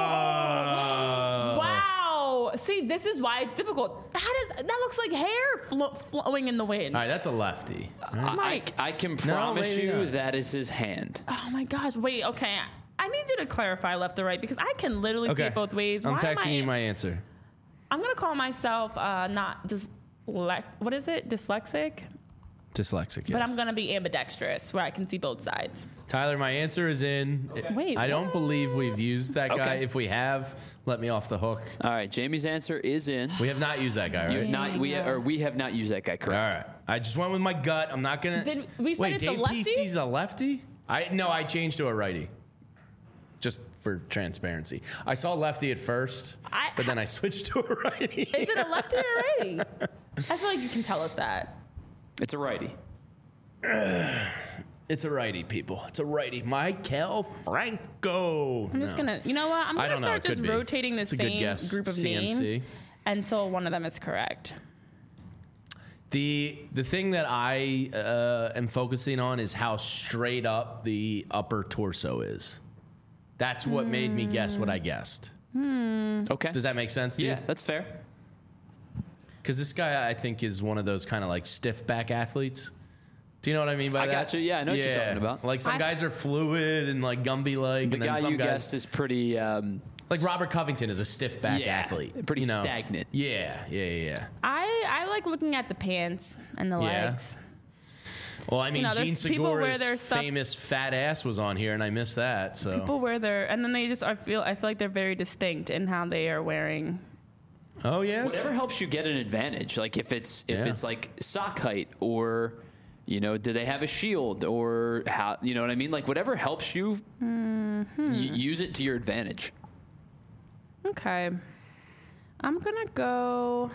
Wow. See, this is why it's difficult. That is that looks like hair flo- flowing in the wind. All right, that's a lefty. I, Mike. I can promise maybe you not. that is his hand. Oh my gosh. Wait. Okay. I need you to clarify left or right because I can literally see Okay. it both ways. I'm Why am texting I- you my answer. I'm gonna call myself uh, not dys- what is it? Dyslexic. Dyslexic, yes. But I'm gonna be ambidextrous, where I can see both sides. Tyler, my answer is in. Wait, I don't what? believe we've used that guy. Okay. If we have, let me off the hook. All right, Jamie's answer is in. We have not used that guy, You've right? not we Yeah. or we have not used that guy, All correct? right. I just went with my gut. I'm not gonna. Did we say Wait, it's a Dave lefty? P C's a lefty? I no, I changed to a righty. Just for transparency, I saw lefty at first, I- but then I switched to a righty. Is it a lefty or a righty? I feel like you can tell us that. It's a righty. It's a righty, people. It's a righty. Michael Franco. I'm just No. gonna, you know what? I'm I gonna don't know. start It just could be. rotating the It's a good same guess. group of C M C. names until one of them is correct. The the thing that I uh, am focusing on is how straight up the upper torso is. That's what made me guess what I guessed. Okay. Does that make sense to you? Yeah, that's fair. Because this guy, I think, is one of those kind of like stiff back athletes. Do you know what I mean by I that? got you. Yeah, I know what you're talking about. Like some I- guys are fluid and like Gumby like. The and then guy some you guys, guessed is pretty. Um, like Robert Covington is a stiff back Yeah, athlete. pretty you know? stagnant. Yeah, yeah, yeah, yeah. I, I like looking at the pants and the Yeah. legs. Well, I mean, know, Gene there's people wear Segura's their stuff- famous fat ass was on here, and I missed that. So People wear their, and then they just, I feel, I feel like they're very distinct in how they are wearing. oh yeah, whatever helps you get an advantage. Like if it's if Yeah. it's like sock height or, you know, do they have a shield or how you know what I mean? Like whatever helps you, y- use it to your advantage. Okay. I'm gonna go.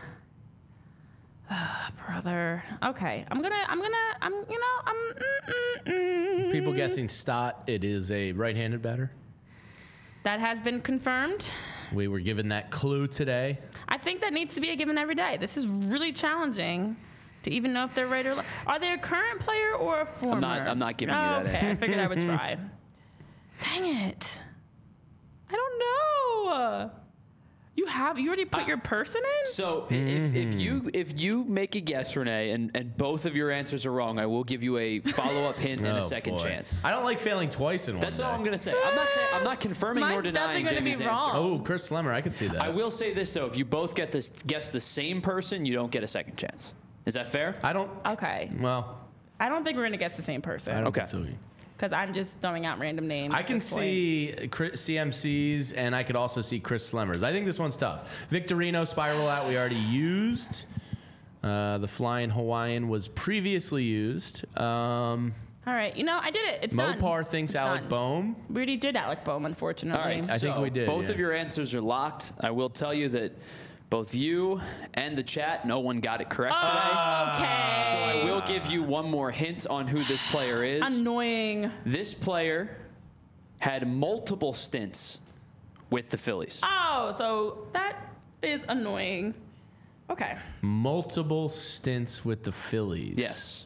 Ah, brother. Okay. I'm gonna. I'm gonna. I'm. You know. I'm. Mm, mm, mm. People guessing Stott. It is a right-handed batter. That has been confirmed. We were given that clue today. I think that needs to be a given every day. This is really challenging to even know if they're right or left. Are they a current player or a former? not- I'm not giving you oh, that okay. answer. I figured I would try. Dang it. I don't know. You have. You already put I- your person in. So i- if, if you if you make a guess, Renee, and, and both of your answers are wrong, I will give you a follow up hint and Oh, a second boy. chance. I don't like failing twice in one That's day. all I'm gonna say. I'm not saying I'm not confirming nor Mine's denying definitely Jamie's gonna be answer. wrong. Oh, Chris Slemmer, I could see that. I will say this though: if you both get this guess the same person, you don't get a second chance. Is that fair? I don't. Okay. Well, I don't think we're gonna guess the same I person don't Okay. think so. because I'm just throwing out random names. I at can this point. see Chris- C M Cs, and I could also see Chris Slemmers. I think this one's tough. Victorino Spiral Out we already used. Uh, the Flying Hawaiian was previously used. Um, All right, you know I did it. It's done. Mopar thinks It's Alec done. Boehm. We already did Alec Boehm, unfortunately. All right, I think so we did, Both yeah. of your answers are locked. I will tell you that both you and the chat, no one got it correct today. Okay. So I will give you one more hint on who this player is. Annoying. This player had multiple stints with the Phillies. Oh, so that is annoying. Okay. Multiple stints with the Phillies. Yes.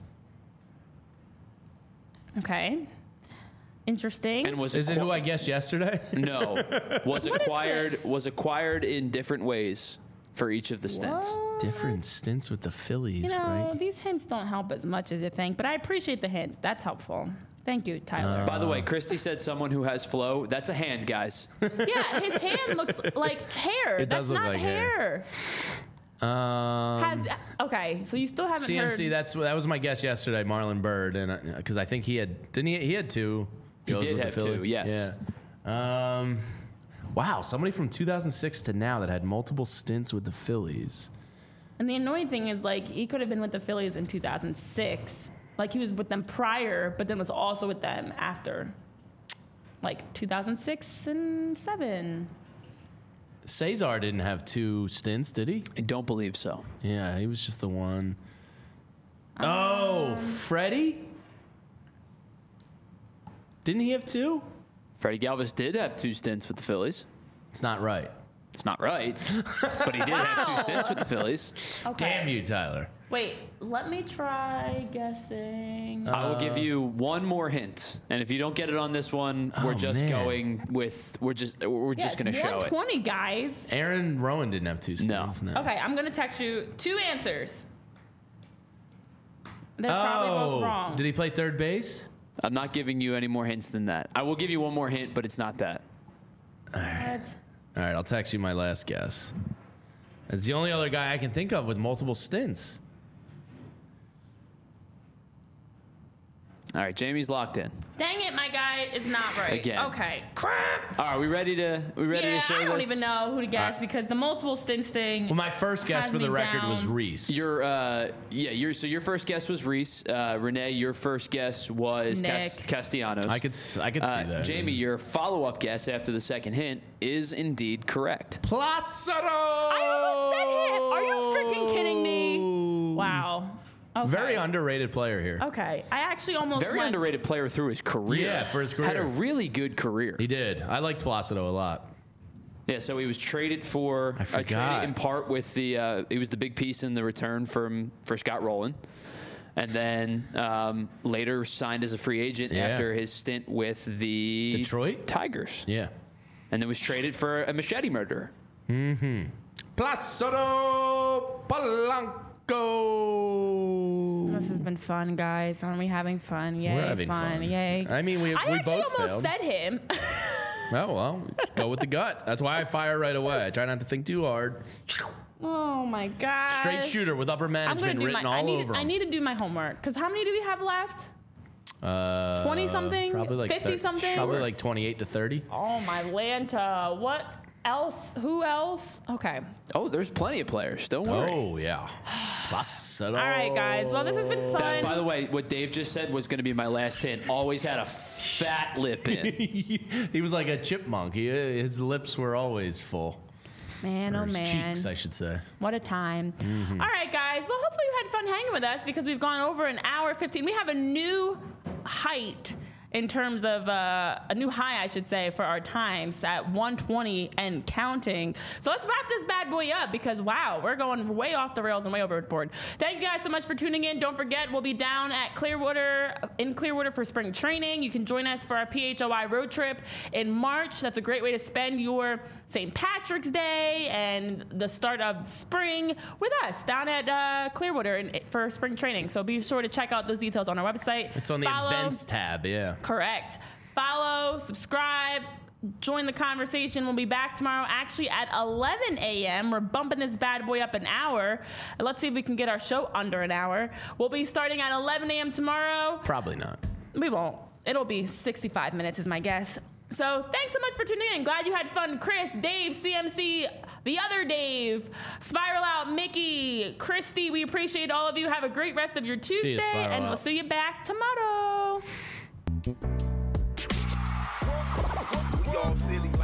Okay. Interesting. And was Is it acqui- who I guessed yesterday? No. Was What is acquired this? was acquired in different ways for each of the stints. What? Different stints with the Phillies, You know, right? these hints don't help as much as you think, but I appreciate the hint. That's helpful. Thank you, Tyler. By the way, Christy said someone who has flow. That's a hand, guys. yeah, his hand looks like hair. It That's does look not like hair. hair. Um, Has okay, so you still haven't C M C, heard. that's that was my guess yesterday, Marlon Bird, and because I think he had didn't he he had two. He goes did with the have Philly. two, yes. Yeah. Um, wow, somebody from two thousand six to now that had multiple stints with the Phillies. And the annoying thing is, like, he could have been with the Phillies in two thousand six. Like, he was with them prior, but then was also with them after. Like, two thousand six and seven. Cesar didn't have two stints, did he? I don't believe so. Yeah, he was just the one. Um, oh, Freddie? Didn't he have two? Freddie Galvis did have two stints with the Phillies. It's not right. It's not right, but he did have Wow. two stints with the Phillies. Okay. Damn you, Tyler. Wait, let me try guessing. I will give you one more hint, and if you don't get it on this one, we're Oh, just man. going with we're just we're Yeah, just gonna show it. one twenty, guys. Aaron Rowan didn't have two No. stints. No. Okay, I'm gonna text you two answers. They're probably both Oh, wrong. did he play third base? I'm not giving you any more hints than that. I will give you one more hint, but it's not that. What? All right, I'll text you my last guess. It's the only other guy I can think of with multiple stints. All right, Jamie's locked in. Dang it, my guy is not right. Again. Okay. Crap. All right, we ready to we ready Yeah, to show I don't this? even know who to guess right. because the multiple stints thing. Well, my first guess has for the me record down. was Reese. Your uh yeah, your so your first guess was Reese. Uh, Renee, your first guess was Cas- Nick. Castellanos. I could s- I could Uh, see that. Jamie, your follow-up guess after the second hint is indeed correct. Placido. I almost said him. Are you freaking kidding me? Wow. Okay. Very underrated player here. Okay. I actually almost Very went, underrated player through his career. Yeah, for his Had a career. really good career. He did. I liked Placido a lot. Yeah, so he was traded for I uh, forgot. traded in part with the uh, he was the big piece in the return from for Scott Rowland, and then um, later signed as a free agent Yeah. after his stint with the Detroit? Tigers, Yeah. and then was traded for a machete murderer. Placido Polanco. This has been fun, guys. Aren't we having fun? Yay, We're having fun. fun. Yay. I mean, we- I we actually both almost failed. said him. Oh, well, go with the gut. That's why I fire right away. I try not to think too hard. Oh my god. Straight shooter with upper I'm gonna management do written my. I all need. over I him. need to do my homework because how many do we have left? Uh, twenty something? Probably like fifty thir- something? Probably like twenty-eight to thirty. Oh my Lanta. What else? Who else? Okay. Oh, there's plenty of players. Don't worry. Oh, yeah. Placido. All right, guys. Well, this has been fun. That, by the way, what Dave just said was going to be my last hint. Always had a fat lip in. He was like a chipmunk. He, his lips were always full. man, Or oh his man. cheeks, I should say. What a time. Mm-hmm. All right, guys. Well, hopefully you had fun hanging with us because we've gone over an hour fifteen. We have a new height in terms of uh, a new high, I should say, for our times at one twenty and counting. So let's wrap this bad boy up because, wow, we're going way off the rails and way overboard. Thank you guys so much for tuning in. Don't forget, we'll be down at Clearwater, in Clearwater for spring training. You can join us for our P H O I road trip in March. That's a great way to spend your Saint Patrick's Day and the start of spring with us down at uh, Clearwater in, for spring training. So be sure to check out those details on our website. It's on the Follow- events tab, yeah. Correct. Follow, subscribe, join the conversation. We'll be back tomorrow actually at eleven a.m. We're bumping this bad boy up an hour. Let's see if we can get our show under an hour. We'll be starting at eleven a.m. tomorrow. Probably not. We won't. It'll be sixty-five minutes is my guess. So thanks so much for tuning in. Glad you had fun. Chris, Dave, C M C, the other Dave, Spiral Out, Mickey, Christy. We appreciate all of you. Have a great rest of your Tuesday. you, Spiral and Out. we'll see you back tomorrow. We all silly.